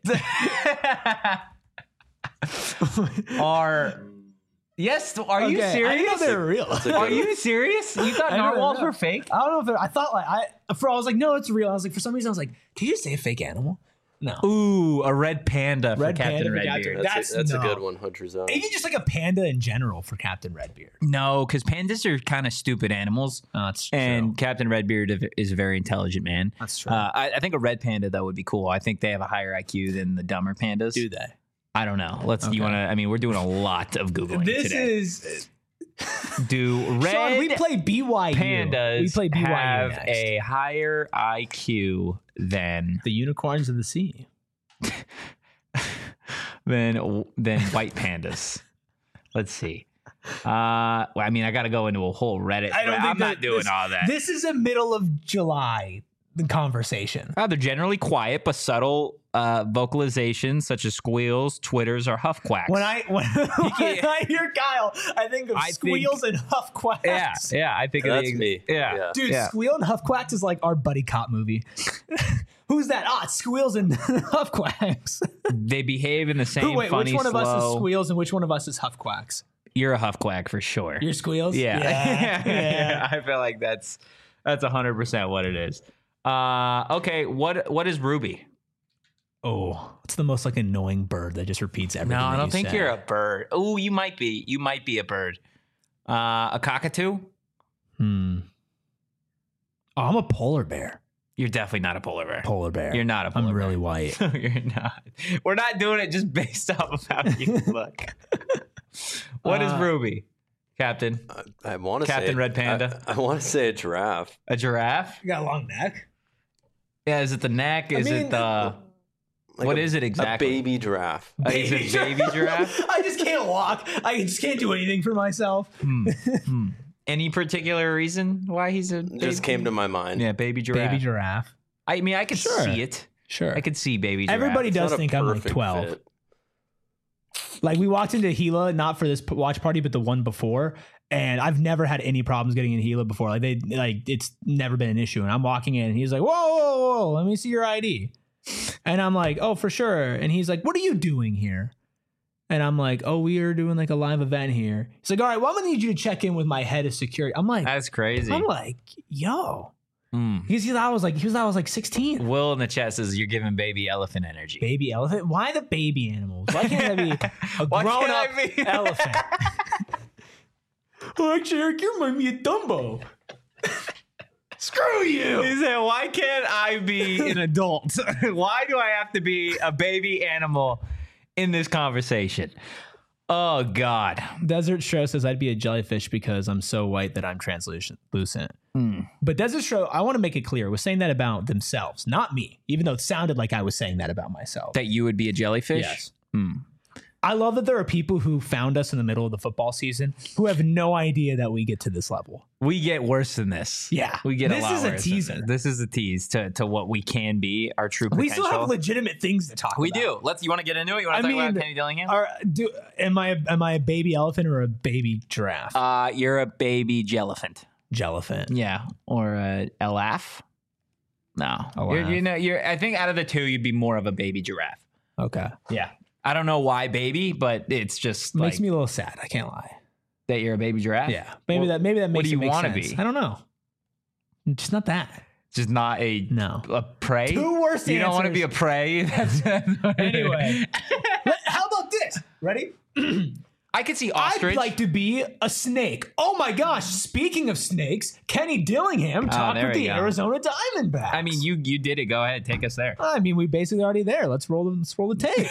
Are yes? Are you Okay, I didn't know serious? they were real. a Are good- you serious? You thought I don't narwhals know. were fake? I don't know if they're, I thought like I for I was like no it's real. I was like for some reason I was like did you just say a fake animal? No. Ooh, a red panda for Red Captain panda for Redbeard. Captain- That's, That's- a, that's no. a good one, Hunter Zone. Maybe just like a panda in general for Captain Redbeard. No, because pandas are kind of stupid animals, Oh, that's and Captain Redbeard is a very intelligent man. That's true. Uh, I, I think a red panda though would be cool. I think they have a higher I Q than the dumber pandas. Do they? I don't know. Let's. Okay. You want to? I mean, we're doing a lot of googling This today. is Do red Sean, we play B Y U. pandas We play B Y U have next. a higher I Q than The unicorns of the sea. than than white pandas? Let's see. Uh, well, I mean, I got to go into a whole Reddit. I don't thread. think I'm that not doing this, all that. This is a middle of July conversation. Uh, they're generally quiet but subtle uh, vocalizations such as squeals, twitters, or huff quacks. When I when, when I hear Kyle, I think of I think- squeals and huff quacks. yeah, yeah, I think of That's the, me. Yeah, Yeah. Dude, yeah. Squeal and Huff Quacks is like our buddy cop movie. Who's that? Ah, it's Squeals and Huff Quacks. They behave in the same Who, wait, funny, which one of us is slow- Squeals and which one of us is Huff Quacks? You're a huff quack for sure. You're Squeals? Yeah. Yeah. yeah. I feel like that's that's one hundred percent what it is. Uh, okay, what what is Ruby? Oh, it's the most like annoying bird that just repeats everything. No, I that don't you think say. you're a bird. Oh, you might be. You might be a bird. Uh, a cockatoo? Hmm. Oh, I'm a polar bear. You're definitely not a polar bear. Polar bear. You're not a polar I'm bear. really white. No, you're not. We're not doing it just based off of how you look. What is Uh, Ruby, Captain? I, I want to say Captain it- Red Panda? I, I want to say a giraffe. A giraffe? You got a long neck. Yeah, is it the neck? Is mean, it the... Like What a, is it exactly? A baby giraffe. Uh, is it baby giraffe? I just can't walk. I just can't do anything for myself. Hmm. Hmm. Any particular reason why he's a baby? Just came to my mind. Yeah, baby giraffe. Baby giraffe. I mean, I could Sure. see it. Sure. I could see baby giraffe. Everybody It's does not a think I'm like perfect twelve. fit. Like we walked into Gila, not for this p- watch party, but the one before, and I've never had any problems getting in Gila before. Like they, like it's never been an issue. And I'm walking in, and he's like, "Whoa, whoa, whoa, let me see your I D." And I'm like, "Oh, for sure." And he's like, "What are you doing here?" And I'm like, oh, we are doing like a live event here. He's like, all right, well, I'm gonna need you to check in with my head of security. I'm like, That's crazy. I'm like, yo. Mm. Because he thought I was like, he was I was like sixteen. Will in the chat says you're giving baby elephant energy. Baby elephant? Why the baby animals? Why can't I be a Why grown can't up I be- elephant? Oh, actually, Eric, you remind me of Dumbo. Screw you. He said, why can't I be an adult? Why do I have to be a baby animal in this conversation? Oh, God. Desert Stro says I'd be a jellyfish because I'm so white that I'm translucent. Mm. But Desert Stro, I want to make it clear, was saying that about themselves, not me, even though it sounded like I was saying that about myself. That you would be a jellyfish? Yes. Mm. I love that there are people who found us in the middle of the football season who have no idea that we get to this level. We get worse than this. Yeah. We get This a lot is a worse than teaser. This. This is a tease to, to what we can be, our true potential. We still have legitimate things to talk We about. do. Let's. You want to get into it? You want I to talk mean, about Kenny Dillingham? Are, do, am I am I a baby elephant or a baby giraffe? Uh, you're a baby jellyphant. Jellyphant. Yeah, or a elaf. No, Elaf. You're, you know, you're. I think out of the two, you'd be more of a baby giraffe. Okay. Yeah, I don't know why baby, but it's just Makes like me a little sad. I can't lie. that you're a baby giraffe. Yeah. Maybe Well, that maybe that makes what do it you make wanna sense. be? I don't know. Just not that. just not a No. a prey. Two worse You don't want to be a answers. prey. That's, Anyway. Let- How about this? Ready? I could see ostrich. I'd like to be a snake. Oh my gosh! Speaking of snakes, Kenny Dillingham talked there with we the go. Arizona Diamondbacks. I mean, you you did it. Go ahead, take us there. I mean, we basically already there. Let's roll the let's roll the tape.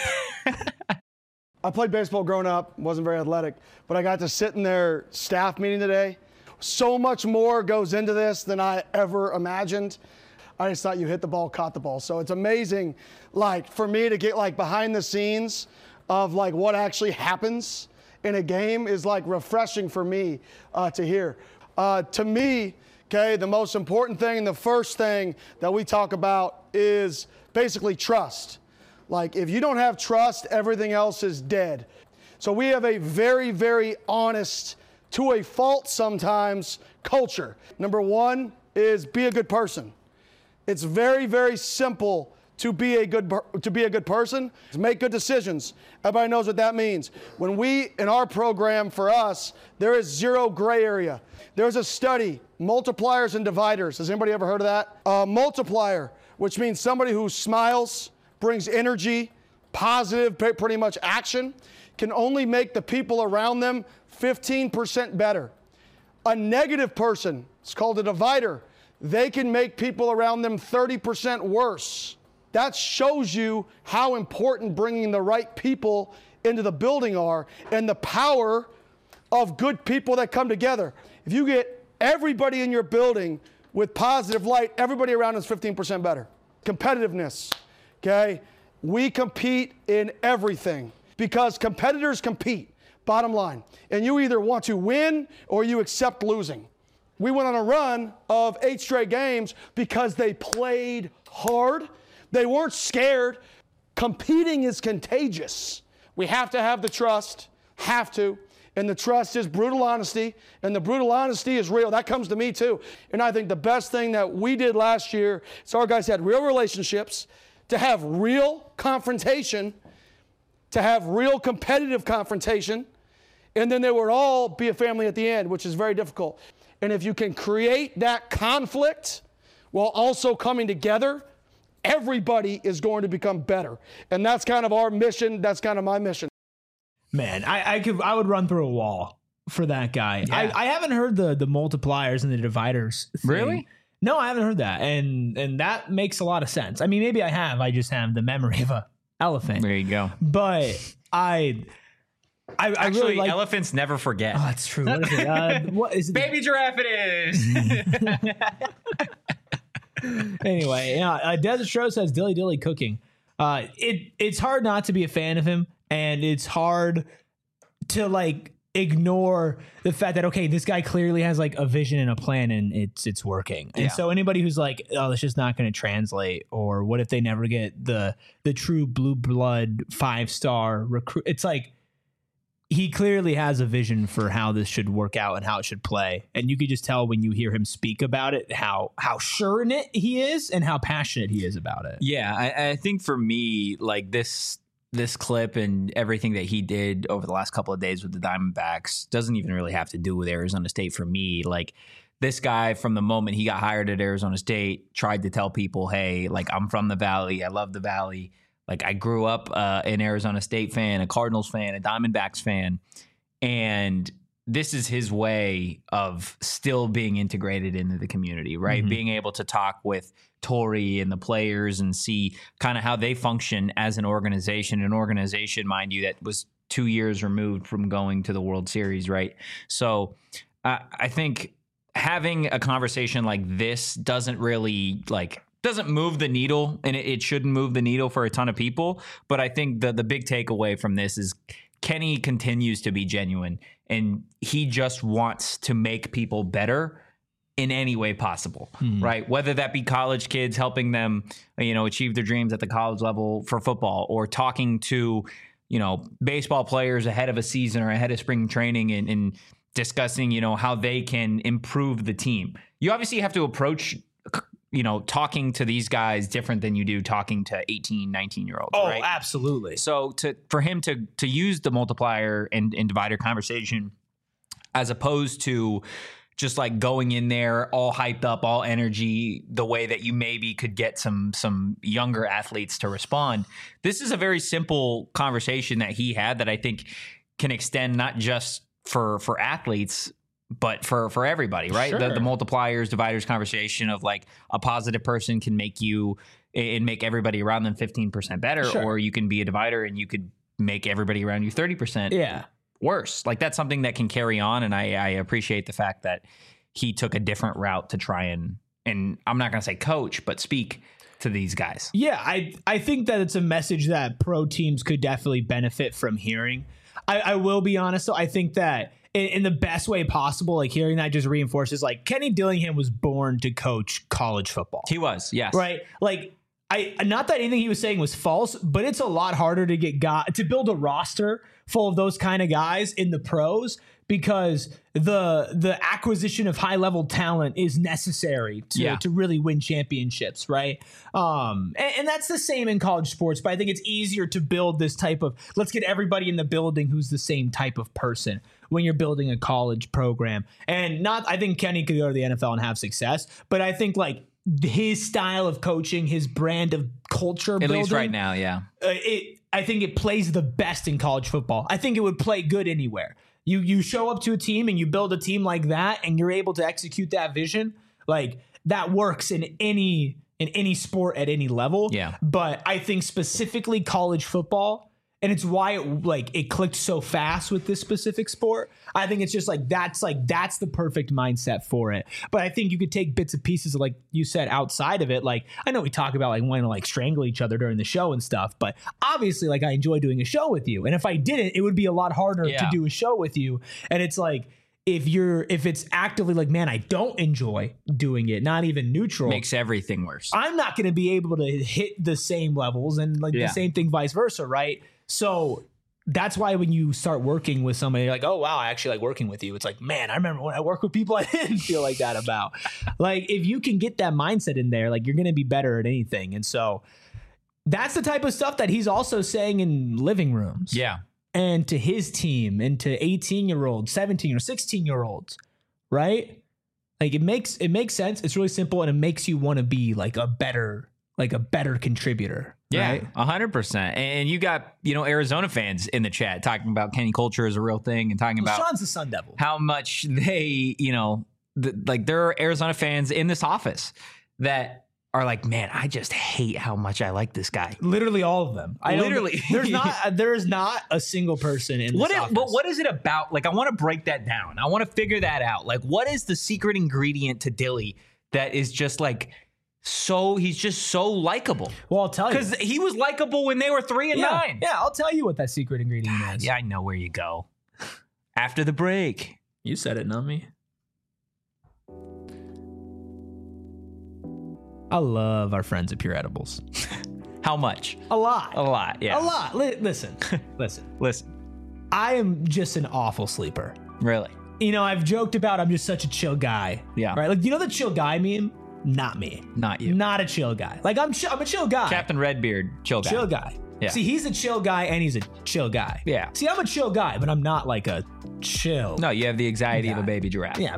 I played baseball growing up, wasn't very athletic, but I got to sit in their staff meeting today. So much more goes into this than I ever imagined. I just thought you hit the ball, caught the ball. So it's amazing, like, for me to get, like, behind the scenes of, like, what actually happens in a game is, like, refreshing for me uh, to hear. Uh, to me, okay, the most important thing and the first thing that we talk about is basically trust. Like, if you don't have trust, everything else is dead. So we have a very, very honest, to a fault sometimes, culture. Number one is be a good person. It's very, very simple to be a good to be a good person. Make good decisions. Everybody knows what that means. When we, in our program for us, there is zero gray area. There's a study, multipliers and dividers. Has anybody ever heard of that? A multiplier, which means somebody who smiles, brings energy, positive, pretty much action, can only make the people around them fifteen percent better. A negative person, it's called a divider, they can make people around them thirty percent worse. That shows you how important bringing the right people into the building are and the power of good people that come together. If you get everybody in your building with positive light, everybody around is fifteen percent better. Competitiveness, okay? We compete in everything because competitors compete, bottom line. And you either want to win or you accept losing. We went on a run of eight straight games because they played hard. They weren't scared. Competing is contagious. We have to have the trust, have to. And the trust is brutal honesty, and the brutal honesty is real. That comes to me too. And I think the best thing that we did last year is our guys had real relationships, to have real confrontation, to have real competitive confrontation, and then they would all be a family at the end, which is very difficult. And if you can create that conflict while also coming together, everybody is going to become better. And that's kind of our mission. That's kind of my mission. Man, I, I could I would run through a wall for that guy. Yeah. I, I haven't heard the the multipliers and the dividers thing. Really? No, I haven't heard that. And and that makes a lot of sense. I mean, maybe I have. I just have the memory of a elephant. There you go. But I I, I Actually, really like elephants never forget. Oh, that's true. What is it? Uh, what is it? Baby giraffe it is. Anyway, yeah, uh, Desert Stro says Dilly Dilly cooking. Uh, it it's hard not to be a fan of him, and it's hard to like ignore the fact that okay, this guy clearly has like a vision and a plan, and it's it's working. And Yeah. so anybody who's like, oh, that's just not going to translate, or what if they never get the the true blue blood five star recruit? It's like, he clearly has a vision for how this should work out and how it should play. And you could just tell when you hear him speak about it, how how sure in it he is and how passionate he is about it. Yeah, I, I think for me, like this this clip and everything that he did over the last couple of days with the Diamondbacks doesn't even really have to do with Arizona State for me. Like, this guy, from the moment he got hired at Arizona State, tried to tell people, hey, like, I'm from the Valley. I love the Valley. Like, I grew up uh, an Arizona State fan, a Cardinals fan, a Diamondbacks fan. And this is his way of still being integrated into the community, right? Mm-hmm. Being able to talk with Torrey and the players and see kind of how they function as an organization, an organization, mind you, that was two years removed from going to the World Series, right? So uh, I think having a conversation like this doesn't really like doesn't move the needle, and it, it shouldn't move the needle for a ton of people. But I think the the big takeaway from this is Kenny continues to be genuine, and he just wants to make people better in any way possible, mm-hmm. right? Whether that be college kids, helping them, you know, achieve their dreams at the college level for football, or talking to, you know, baseball players ahead of a season or ahead of spring training and, and discussing, you know, how they can improve the team. You obviously have to approach, you know, talking to these guys different than you do talking to eighteen, nineteen year olds. Oh, right? Absolutely. So to for him to to use the multiplier and, and divider conversation as opposed to just like going in there all hyped up, all energy, the way that you maybe could get some some younger athletes to respond. This is a very simple conversation that he had that I think can extend not just for for athletes, but for for everybody, right? Sure. The, the multipliers, dividers conversation of like a positive person can make you and make everybody around them fifteen percent better, Sure. or you can be a divider and you could make everybody around you thirty percent Yeah. worse. Like, that's something that can carry on. And I, I appreciate the fact that he took a different route to try and, and I'm not going to say coach, but speak to these guys. Yeah, I I think that it's a message that pro teams could definitely benefit from hearing. I, I will be honest, though, I think that in, in the best way possible, like hearing that just reinforces, like, Kenny Dillingham was born to coach college football. He was, yes. Right? Like, I not that anything he was saying was false, but it's a lot harder to get got to build a roster full of those kind of guys in the pros, because the the acquisition of high level talent is necessary to, Yeah. to really win championships, right? Um, and, and that's the same in college sports, but I think it's easier to build this type of, let's get everybody in the building who's the same type of person when you're building a college program. And not, I think Kenny could go to the N F L and have success, but I think like his style of coaching, his brand of culture At building, least right now, yeah. uh, it I think it plays the best in college football. I think it would play good anywhere. You you show up to a team and you build a team like that, and you're able to execute that vision. Like, that works in any in any sport at any level. Yeah. But I think specifically college football, and it's why it like it clicked so fast with this specific sport. I think it's just like that's like that's the perfect mindset for it. But I think you could take bits and pieces, like you said, outside of it. Like, I know we talk about like wanting to like strangle each other during the show and stuff, but obviously, like, I enjoy doing a show with you. And if I didn't, it would be a lot harder Yeah. to do a show with you. And it's like, if you're if it's actively like, man, I don't enjoy doing it, not even neutral, Makes everything worse. I'm not going to be able to hit the same levels, and like Yeah. the same thing vice versa, right? So that's why when you start working with somebody, you're like, oh, wow, I actually like working with you. It's like, man, I remember when I worked with people I didn't feel like that about. Like, if you can get that mindset in there, like, you're going to be better at anything. And so that's the type of stuff that he's also saying in living rooms. Yeah. And to his team, and to eighteen year olds, seventeen or sixteen year olds, right? Like, it makes it makes sense. It's really simple, and it makes you want to be like a better, like a better contributor. Yeah, Right? a hundred percent. And you got, you know, Arizona fans in the chat talking about Kenny culture is a real thing, and talking Well, about Sean's the Sun Devil. how much they, you know, th- like there are Arizona fans in this office that are like, man, I just hate how much I like this guy. Literally all of them. I don't- Literally. there's not there is not a single person in this What? It, office. but what is it about? Like, I want to break that down. I want to figure that out. Like, what is the secret ingredient to Dilly that is just like so? He's just so likable. Well, I'll tell you. Because he was likable when they were three and yeah, nine. yeah, I'll tell you what that secret ingredient is. Yeah, I know where you go. After the break. You said it, not me. I love our friends at Pure Edibles. How much? A lot. A lot, yeah. A lot. Li- listen, listen. Listen, I am just an awful sleeper. really. You know, I've joked about I'm just such a chill guy. Yeah. Right? Like, you know the chill guy meme? Not me. Not you. Not a chill guy. Like, I'm chill, I'm a chill guy. Captain Redbeard, chill guy. Chill guy. Yeah. See, he's a chill guy and he's a chill guy. Yeah. See, I'm a chill guy, but I'm not like a chill. No, you have the anxiety of a guy. baby giraffe. Yeah.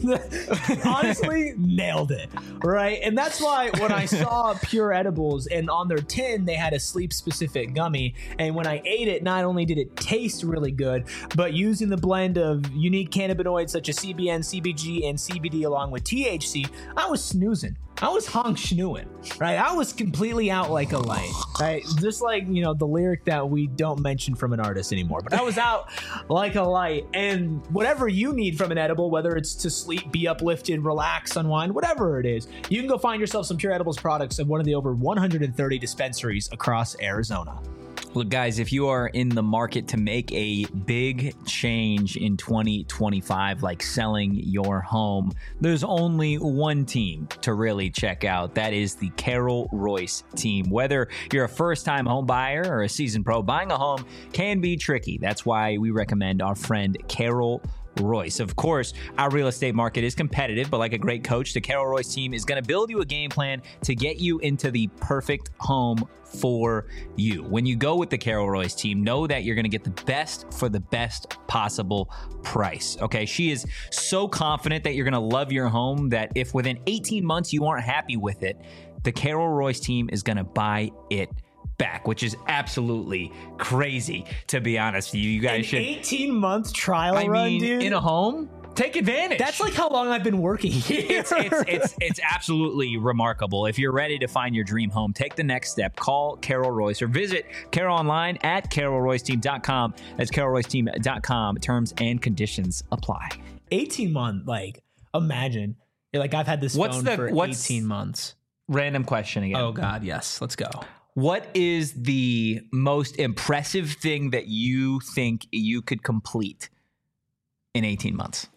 Honestly, nailed it. Right. And that's why when I saw Pure Edibles and on their tin, they had a sleep specific gummy. And when I ate it, not only did it taste really good, but using the blend of unique cannabinoids such as C B N, C B G, and C B D along with T H C, I was snoozing. I was honk schnooing, right? I was completely out like a light, right? Just like, you know, the lyric that we don't mention from an artist anymore, but I was out like a light. And whatever you need from an edible, whether it's to sleep, be uplifted, relax, unwind, whatever it is, you can go find yourself some Pure Edibles products at one of the over one hundred thirty dispensaries across Arizona. Look, guys, if you are in the market to make a big change in twenty twenty-five, like selling your home, there's only one team to really check out. That is the Carol Royce team. Whether you're a first-time home buyer or a seasoned pro, buying a home can be tricky. That's why we recommend our friend Carol Royce. Of course, our real estate market is competitive, but like a great coach, the Carol Royce team is going to build you a game plan to get you into the perfect home for you. When you go with the Carol Royce team, know that you're going to get the best for the best possible price. Okay, she is so confident that you're going to love your home that if within eighteen months you aren't happy with it, the Carol Royce team is going to buy it back, which is absolutely crazy, to be honest with you. You guys An should eighteen month trial I run, mean, dude. in a home, take advantage. That's like how long I've been working here. it's, it's it's it's absolutely remarkable. If you're ready to find your dream home, take the next step. Call Carol Royce or visit Carol online at carol royce team dot com. That's carol royce team dot com. Terms and conditions apply. eighteen month, like, imagine. Like, I've had this What's phone the- for what's- eighteen months. Random question again. Oh, God, yes. Let's go. What is the most impressive thing that you think you could complete in eighteen months?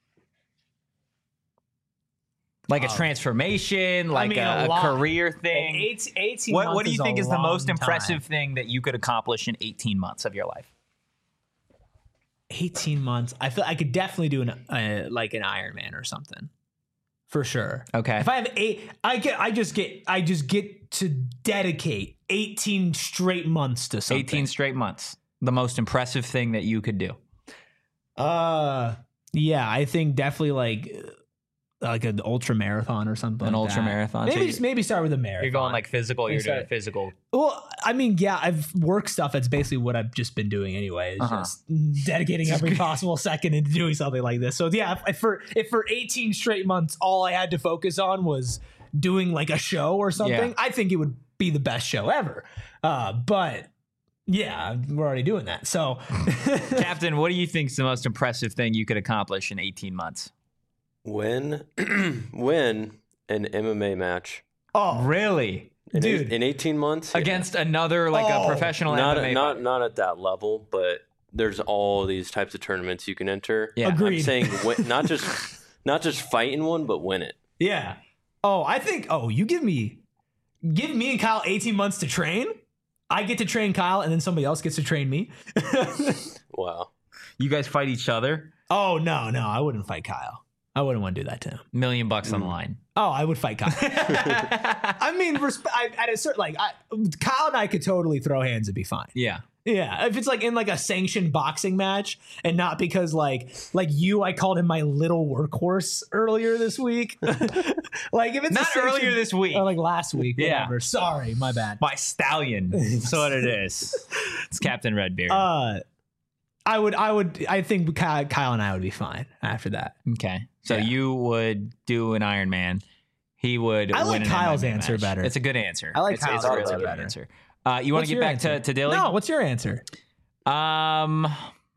Like a Um, transformation, like mean, a, a a lot. career thing. Eight, eighteen What, months what do you is think a is the most long impressive time. thing that you could accomplish in eighteen months of your life? eighteen months. I feel I could definitely do an uh, like an Ironman or something. For sure. Okay. If I have eight, I get. I just get. I just get to dedicate eighteen straight months to something. eighteen straight months. The most impressive thing that you could do. Uh, yeah. I think definitely like like an ultra marathon or something. An like ultra that. marathon. So Maybe you- just maybe start with a marathon. You're going like physical. You're doing Sorry. physical. Well, I mean, yeah, I've work stuff. That's basically what I've just been doing anyway. Is Uh-huh. just dedicating every possible second into doing something like this. So yeah, if, if for if for eighteen straight months all I had to focus on was doing like a show or something, Yeah. I think it would be the best show ever. Uh, but yeah, we're already doing that. So Captain, what do you think is the most impressive thing you could accomplish in eighteen months? Win, win an M M A match oh, Really? in, Dude. eight, in eighteen months yeah. Against another, like Oh, a professional Not M M A not fight? not at that level, but there's all these types of tournaments you can enter. Yeah. Agreed. I'm saying win, not just not just fight in one, but win it. yeah. Oh, I think. Oh, you give me give me and Kyle eighteen months to train. I get to train Kyle, and then somebody else gets to train me. Wow. You guys fight each other? Oh no, no, I wouldn't fight Kyle. I wouldn't want to do that to him. Million bucks Mm. on the line. Oh, I would fight Kyle. I mean, resp- I, at a certain like, I, Kyle and I could totally throw hands and be fine. Yeah. Yeah, if it's like in like a sanctioned boxing match, and not because like like you, I called him my little workhorse earlier this week. Like if it's a Not sanctioned- earlier this week. or like last week. Yeah. Whatever. Sorry, my bad. My stallion. That's what it is. It's Captain Redbeard. Uh, I would, I would, I think Kyle, Kyle and I would be fine after that. okay. So yeah. you would do an Iron Man. He would I win like an Kyle's M M A answer match. better. It's a good answer. I like it's, Kyle's it's a really answer good better. answer. Uh, you want What's to get your back answer? to, to Dilly? No, what's your answer? Um,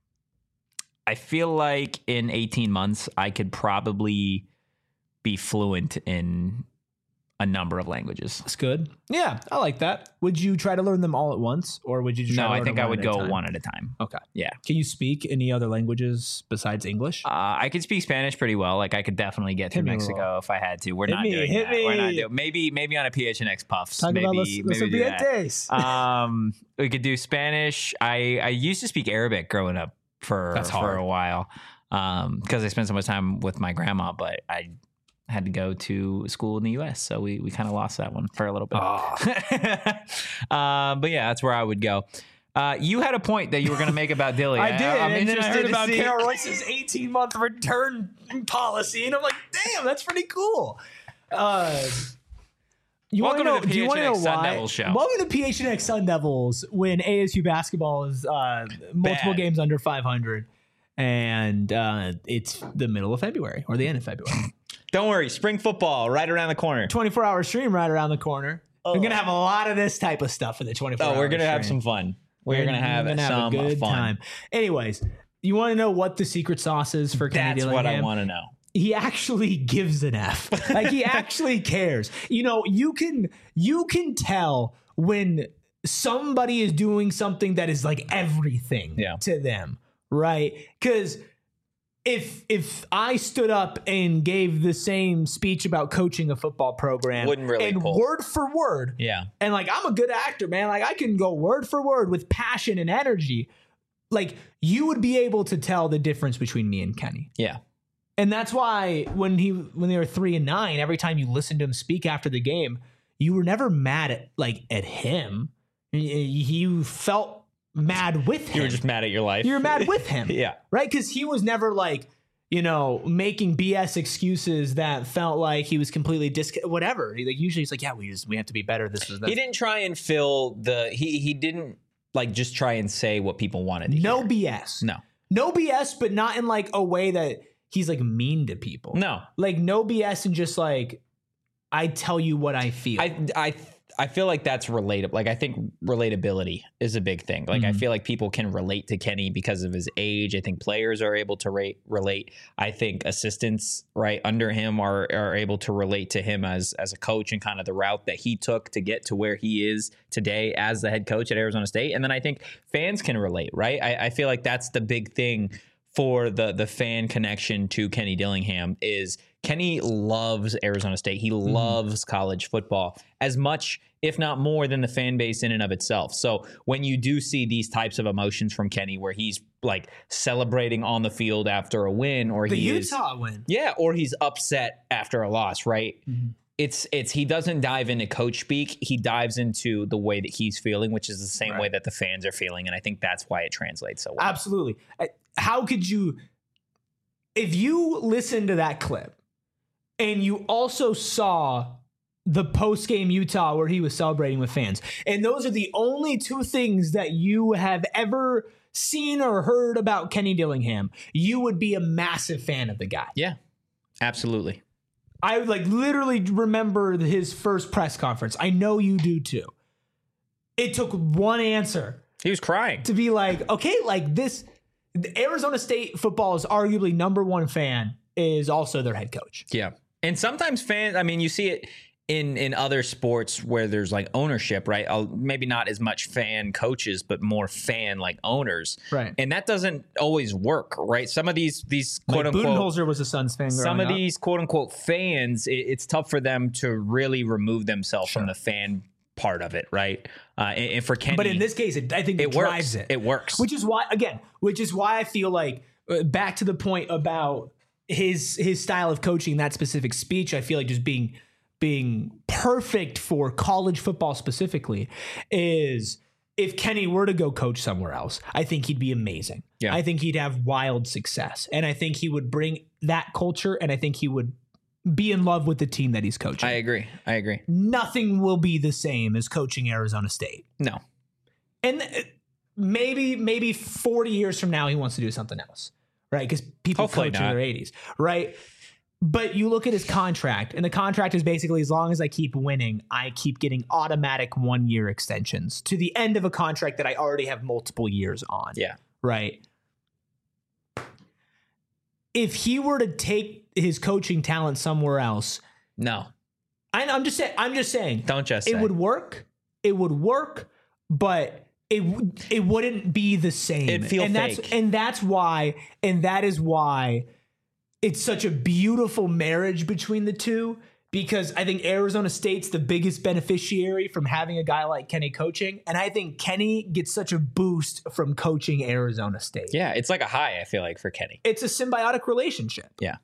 I feel like in eighteen months, I could probably be fluent in a number of languages. That's good. Yeah, I like that. Would you try to learn them all at once, or would you just try No, to I learn think them I one would at a go time? one at a time. Okay. Yeah. Can you speak any other languages besides English? Uh, I could speak Spanish pretty well. Like I could definitely get Hit through me a Mexico little. if I had to. We're Hit not me, doing hit that. We're not me. doing. Maybe maybe on a P H N X Puffs. Talk maybe about los, los maybe do that. ambientes. Um, we could do Spanish. I I used to speak Arabic growing up for That's for hard. a while. Um, because I spent so much time with my grandma, but I had to go to school in the U S, so we we kind of lost that one for a little bit. Oh. uh, but yeah, that's where I would go. Uh, you had a point that you were going to make about Dilly. I did, I'm and then I interested heard to about see- Carol Royce's eighteen-month return policy, and I'm like, damn, that's pretty cool. Uh, you Welcome wanna know, to the do you want to know P H N X Sun why? Devils show. Welcome to P H N X Sun Devils when A S U basketball is uh, multiple Bad. games under five hundred, and uh, it's the middle of February or the end of February. Don't worry, spring football right around the corner. twenty-four hour stream right around the corner. We're going to have a lot of this type of stuff in the twenty-four hour Oh, we're going to have stream. some fun. We're going to have gonna some a good fun. time. Anyways, you want to know what the secret sauce is for Kenny That's what I Dillingham? want to know. He actually gives an F. Like he actually cares. You know, you can you can tell when somebody is doing something that is like everything Yeah. to them, right? Because if if I stood up and gave the same speech about coaching a football program, Wouldn't really and pull. word for word, Yeah. and like I'm a good actor, man. Like I can go word for word with passion and energy. Like you would be able to tell the difference between me and Kenny. Yeah. And that's why when he when they were three and nine, every time you listened to him speak after the game, you were never mad at like at him. You felt mad with him. You were just mad at your life. You were mad with him. Yeah. Right? Because he was never like, you know, making B S excuses that felt like he was completely dis whatever. He, like usually he's like, yeah, we just we have to be better. This is that. He didn't try and fill the he he didn't like just try and say what people wanted to No hear. B S. No. No B S, but not in like a way that he's like mean to people. No. Like no B S and just like I tell you what I feel. I I I feel like that's relatable. Like I think relatability is a big thing. Like I feel like people can relate to Kenny because of his age. I think players are able to rate, relate. I think assistants right under him are are able to relate to him as as a coach and kind of the route that he took to get to where he is today as the head coach at Arizona State. And then I think fans can relate, right? I, I feel like that's the big thing for the the fan connection to Kenny Dillingham is Kenny loves Arizona State. He loves college football as much, if not more, than the fan base in and of itself. So when you do see these types of emotions from Kenny where he's like celebrating on the field after a win or the he Utah is, win. yeah, or he's upset after a loss, right? Mm-hmm. It's it's he doesn't dive into coach speak. He dives into the way that he's feeling, which is the same Right. way that the fans are feeling. And I think that's why it translates so well. Absolutely. I- How could you, if you listen to that clip and you also saw the post game Utah where he was celebrating with fans, and those are the only two things that you have ever seen or heard about Kenny Dillingham, you would be a massive fan of the guy. Yeah, absolutely. I like literally remember his first press conference. I know you do too. It took one answer He was crying. to be like, okay, like this, the Arizona State football's arguably number one fan is also their head coach. Yeah. And sometimes fans, I mean, you see it in in other sports where there's like ownership, right? I'll, maybe not as much fan coaches, but more fan like owners. Right. And that doesn't always work, right? Some of these, these quote Like unquote, Budenholzer was a Suns fan. some growing of up. these quote unquote fans, it, it's tough for them to really remove themselves from the fan part of it, right? Uh, and, and for Kenny, But in this case, it, I think it, it works. drives it. It works. Which is why, again, which is why I feel like uh, back to the point about his his style of coaching, that specific speech, I feel like just being being perfect for college football specifically is if Kenny were to go coach somewhere else, I think he'd be amazing. Yeah. I think he'd have wild success. And I think he would bring that culture, and I think he would be in love with the team that he's coaching. I agree. I agree. Nothing will be the same as coaching Arizona State. No. And uh, maybe maybe forty years from now he wants to do something else, right? Because people Hopefully coach in not. their eighties, right? But you look at his contract, and the contract is basically as long as I keep winning, I keep getting automatic one-year extensions to the end of a contract that I already have multiple years on. Yeah. Right? If he were to take his coaching talent somewhere else, No. I, I'm just saying. I'm just saying. Don't just It say. would work. It would work, but it w- it wouldn't be the same. It'd feel and fake. that's and that's why and that is why it's such a beautiful marriage between the two, because I think Arizona State's the biggest beneficiary from having a guy like Kenny coaching, and I think Kenny gets such a boost from coaching Arizona State. Yeah, it's like a high, I feel like, for Kenny. It's a symbiotic relationship. Yeah.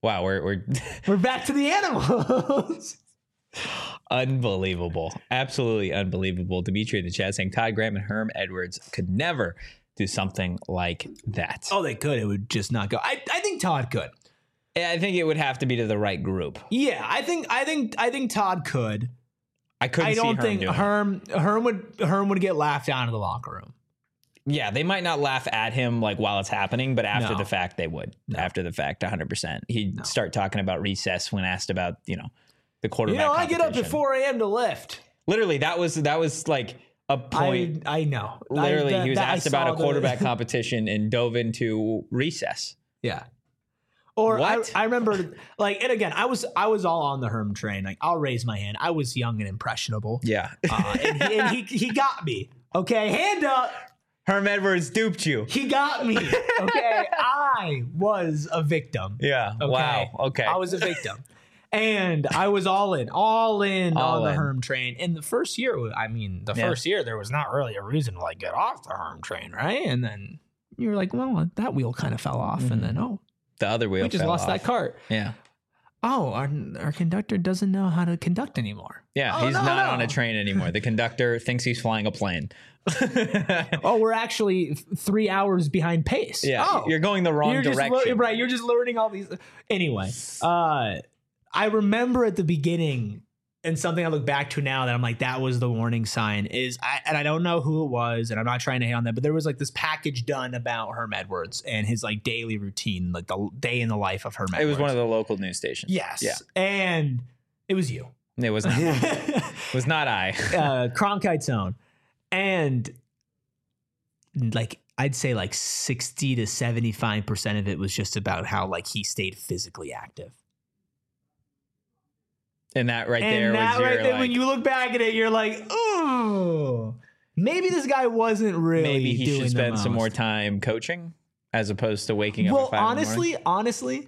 Wow, we're we're We're back to the animals. unbelievable. Absolutely unbelievable. Dimitri in the chat saying Todd Graham and Herm Edwards could never do something like that. Oh, they could. It would just not go. I, I think Todd could. I think it would have to be to the right group. Yeah, I think I think I think Todd could. I couldn't I see don't Herm think doing it. Herm Herm would Herm would get laughed out of the locker room. Yeah, they might not laugh at him like while it's happening, but after No. the fact, they would. No. After the fact, one hundred percent. He'd No. start talking about recess when asked about, you know, the quarterback You know, I get up at competition. four a.m. to lift. Literally, that was that was like a point. I I know. Literally, I, that- he was that I asked about saw a the- quarterback competition and dove into recess. Yeah. Or What? I, I remember, like, and again, I was I was all on the Herm train. Like, I'll raise my hand. I was young and impressionable. Yeah. Uh, and he, and he he got me. Okay, hand up. Herm Edwards duped you. He got me. Okay, I was a victim. Yeah. Okay? Wow. Okay. I was a victim. And I was all in, all in All on the in. Herm train. And the first year, I mean, the Yeah. first year, there was not really a reason to like get off the Herm train, right? And then you were like, well, that wheel kind of fell off. Mm-hmm. And then, oh, the other wheel we just fell lost off. that cart. Yeah. Oh, our, our conductor doesn't know how to conduct anymore. Yeah. Oh, he's no, not no. on a train anymore. The conductor thinks he's flying a plane. Oh, we're actually th- three hours behind pace. Yeah. Oh, You're going the wrong you're just direction. lear- right. You're just learning all these. Anyway, uh, I remember at the beginning, and something I look back to now that I'm like, that was the warning sign. Is I and I don't know who it was, and I'm not trying to hate on that, but there was like this package done about Herm Edwards and his like daily routine, like the day in the life of Herm Edwards. It was one of the local news stations. yes, Yeah. and it was you. It was not. it was not I. uh, Cronkite Zone, and like I'd say like sixty to seventy-five percent of it was just about how like he stayed physically active. And that right And there that was your, right there, like, when you look back at it, you're like, oh, maybe this guy wasn't really. maybe he doing should the spend some most. more time coaching as opposed to waking up Well, at five honestly, honestly,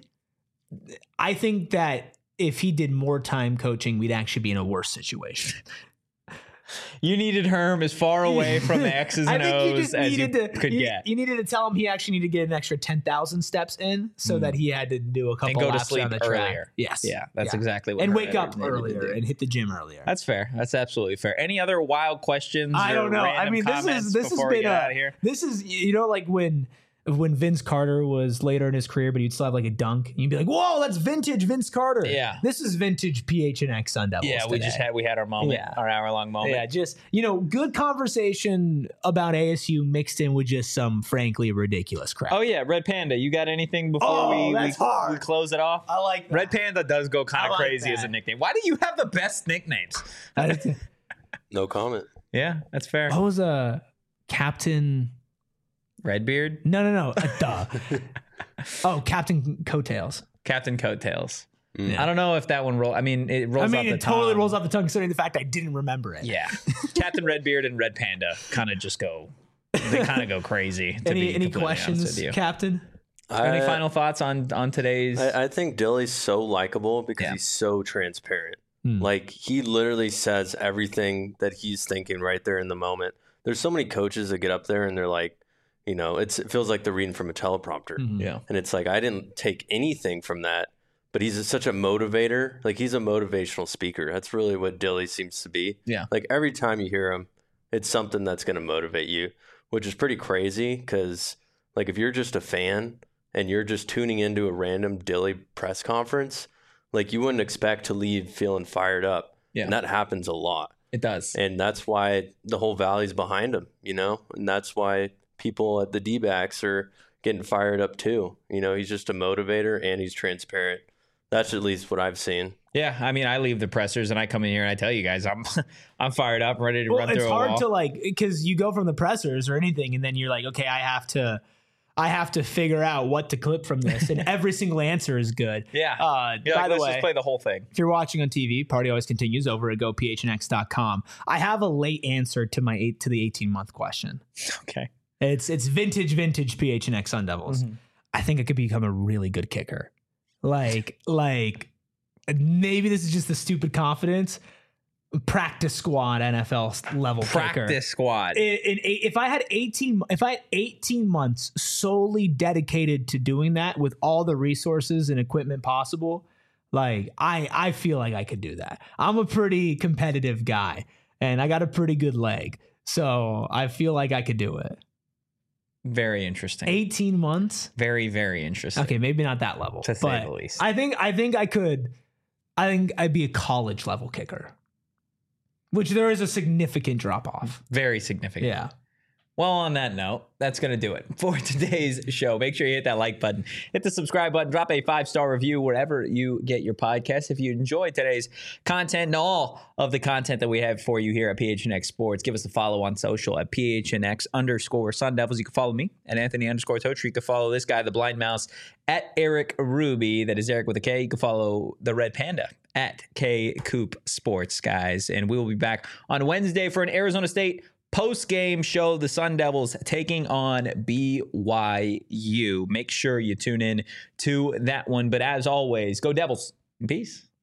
I think that if he did more time coaching, we'd actually be in a worse situation. in the morning. You needed Herm as far away from the X's I and think you O's just as you needed to could you, get. you needed to tell him he actually needed to get an extra ten thousand steps in, so that he had to do a couple go to laps sleep around the track. earlier. Yes, Yeah, that's exactly what and Herm wake up Edwards needed to earlier do. and hit the gym earlier. That's fair. That's absolutely fair. Any other wild questions? I or don't know. I random mean, this comments is this has before we been get a, out of here? this is you know like when when Vince Carter was later in his career, but he'd still have like a dunk. And you'd be like, "Whoa, that's vintage Vince Carter." Yeah. this is vintage P H N X Sun Devils. Yeah, we today. just had we had our moment, Yeah. our hour long moment. Yeah, just you know, good conversation about A S U mixed in with just some frankly ridiculous crap. Oh yeah, Red Panda. You got anything before Oh, we, that's we, hard. we close it off? I like that. Red Panda does go kind I of like crazy that. as a nickname. Why do you have the best nicknames? No comment. Yeah, that's fair. What was a Captain? Redbeard, No, no, no. Uh, duh. Oh, Captain Coattails. Captain Coattails. Mm. I don't know if that one roll. I mean, it rolls. I mean, off the it totally tongue. rolls off the tongue, considering the fact I didn't remember it. Yeah, Captain Redbeard and Red Panda kind of just go. They kind of go crazy. To Any be any completely honest questions, with you. Captain? Any I- final thoughts on on today's? I, I think Dilly's so likable because Yeah. he's so transparent. Hmm. Like he literally says everything that he's thinking right there in the moment. There's so many coaches that get up there and they're like, you know, it's it feels like they're reading from a teleprompter. Mhm. yeah, And it's like I didn't take anything from that, but he's a, such a motivator. Like he's a motivational speaker. That's really what Dilly seems to be. Yeah. Like every time you hear him, it's something that's going to motivate you, which is pretty crazy because like if you're just a fan and you're just tuning into a random Dilly press conference, like you wouldn't expect to leave feeling fired up. Yeah. And that happens a lot. it does. And that's why the whole valley's behind him, you know? And that's why people at the D-backs are getting fired up too. You know, he's just a motivator and he's transparent. That's at least what I've seen. Yeah, I mean, I leave the pressers and I come in here and I tell you guys, I'm I'm fired up, ready to Well, run it's through a hard wall. to like because you go from the pressers or anything, and then you're like, okay, I have to, I have to figure out what to clip from this, and every single answer is good. yeah. Uh, You're by like, the let's way, just play the whole thing. if you're watching on T V, Party Always Continues over at go p h n x dot com. I have a late answer to my eight to the eighteen month question. Okay. It's it's vintage, vintage P H N X Sun Devils. Mhm. I think I could become a really good kicker. Like, like maybe this is just the stupid confidence, practice squad N F L level Practice kicker. squad. In, in, if I had eighteen, if I had eighteen months solely dedicated to doing that with all the resources and equipment possible, like I, I feel like I could do that. I'm a pretty competitive guy, and I got a pretty good leg, so I feel like I could do it. Very interesting. eighteen months. Very, very interesting. Okay, maybe not that level, To say but the least. I think I think I could. I think I'd be a college level kicker, which there is a significant drop off. Very significant. Yeah. Well, on that note, that's going to do it for today's show. Make sure you hit that like button, hit the subscribe button, drop a five-star review wherever you get your podcast. If you enjoyed today's content and all of the content that we have for you here at P H N X Sports, give us a follow on social at P H N X underscore Sun Devils. You can follow me at Anthony underscore Tocher. You can follow this guy, the Blind Mouse, at Eric Ruby. That is Eric with a K. You can follow the Red Panda at K Coop Sports, guys. And we will be back on Wednesday for an Arizona State post-game show, the Sun Devils taking on B Y U. Make sure you tune in to that one. But as always, go Devils. Peace.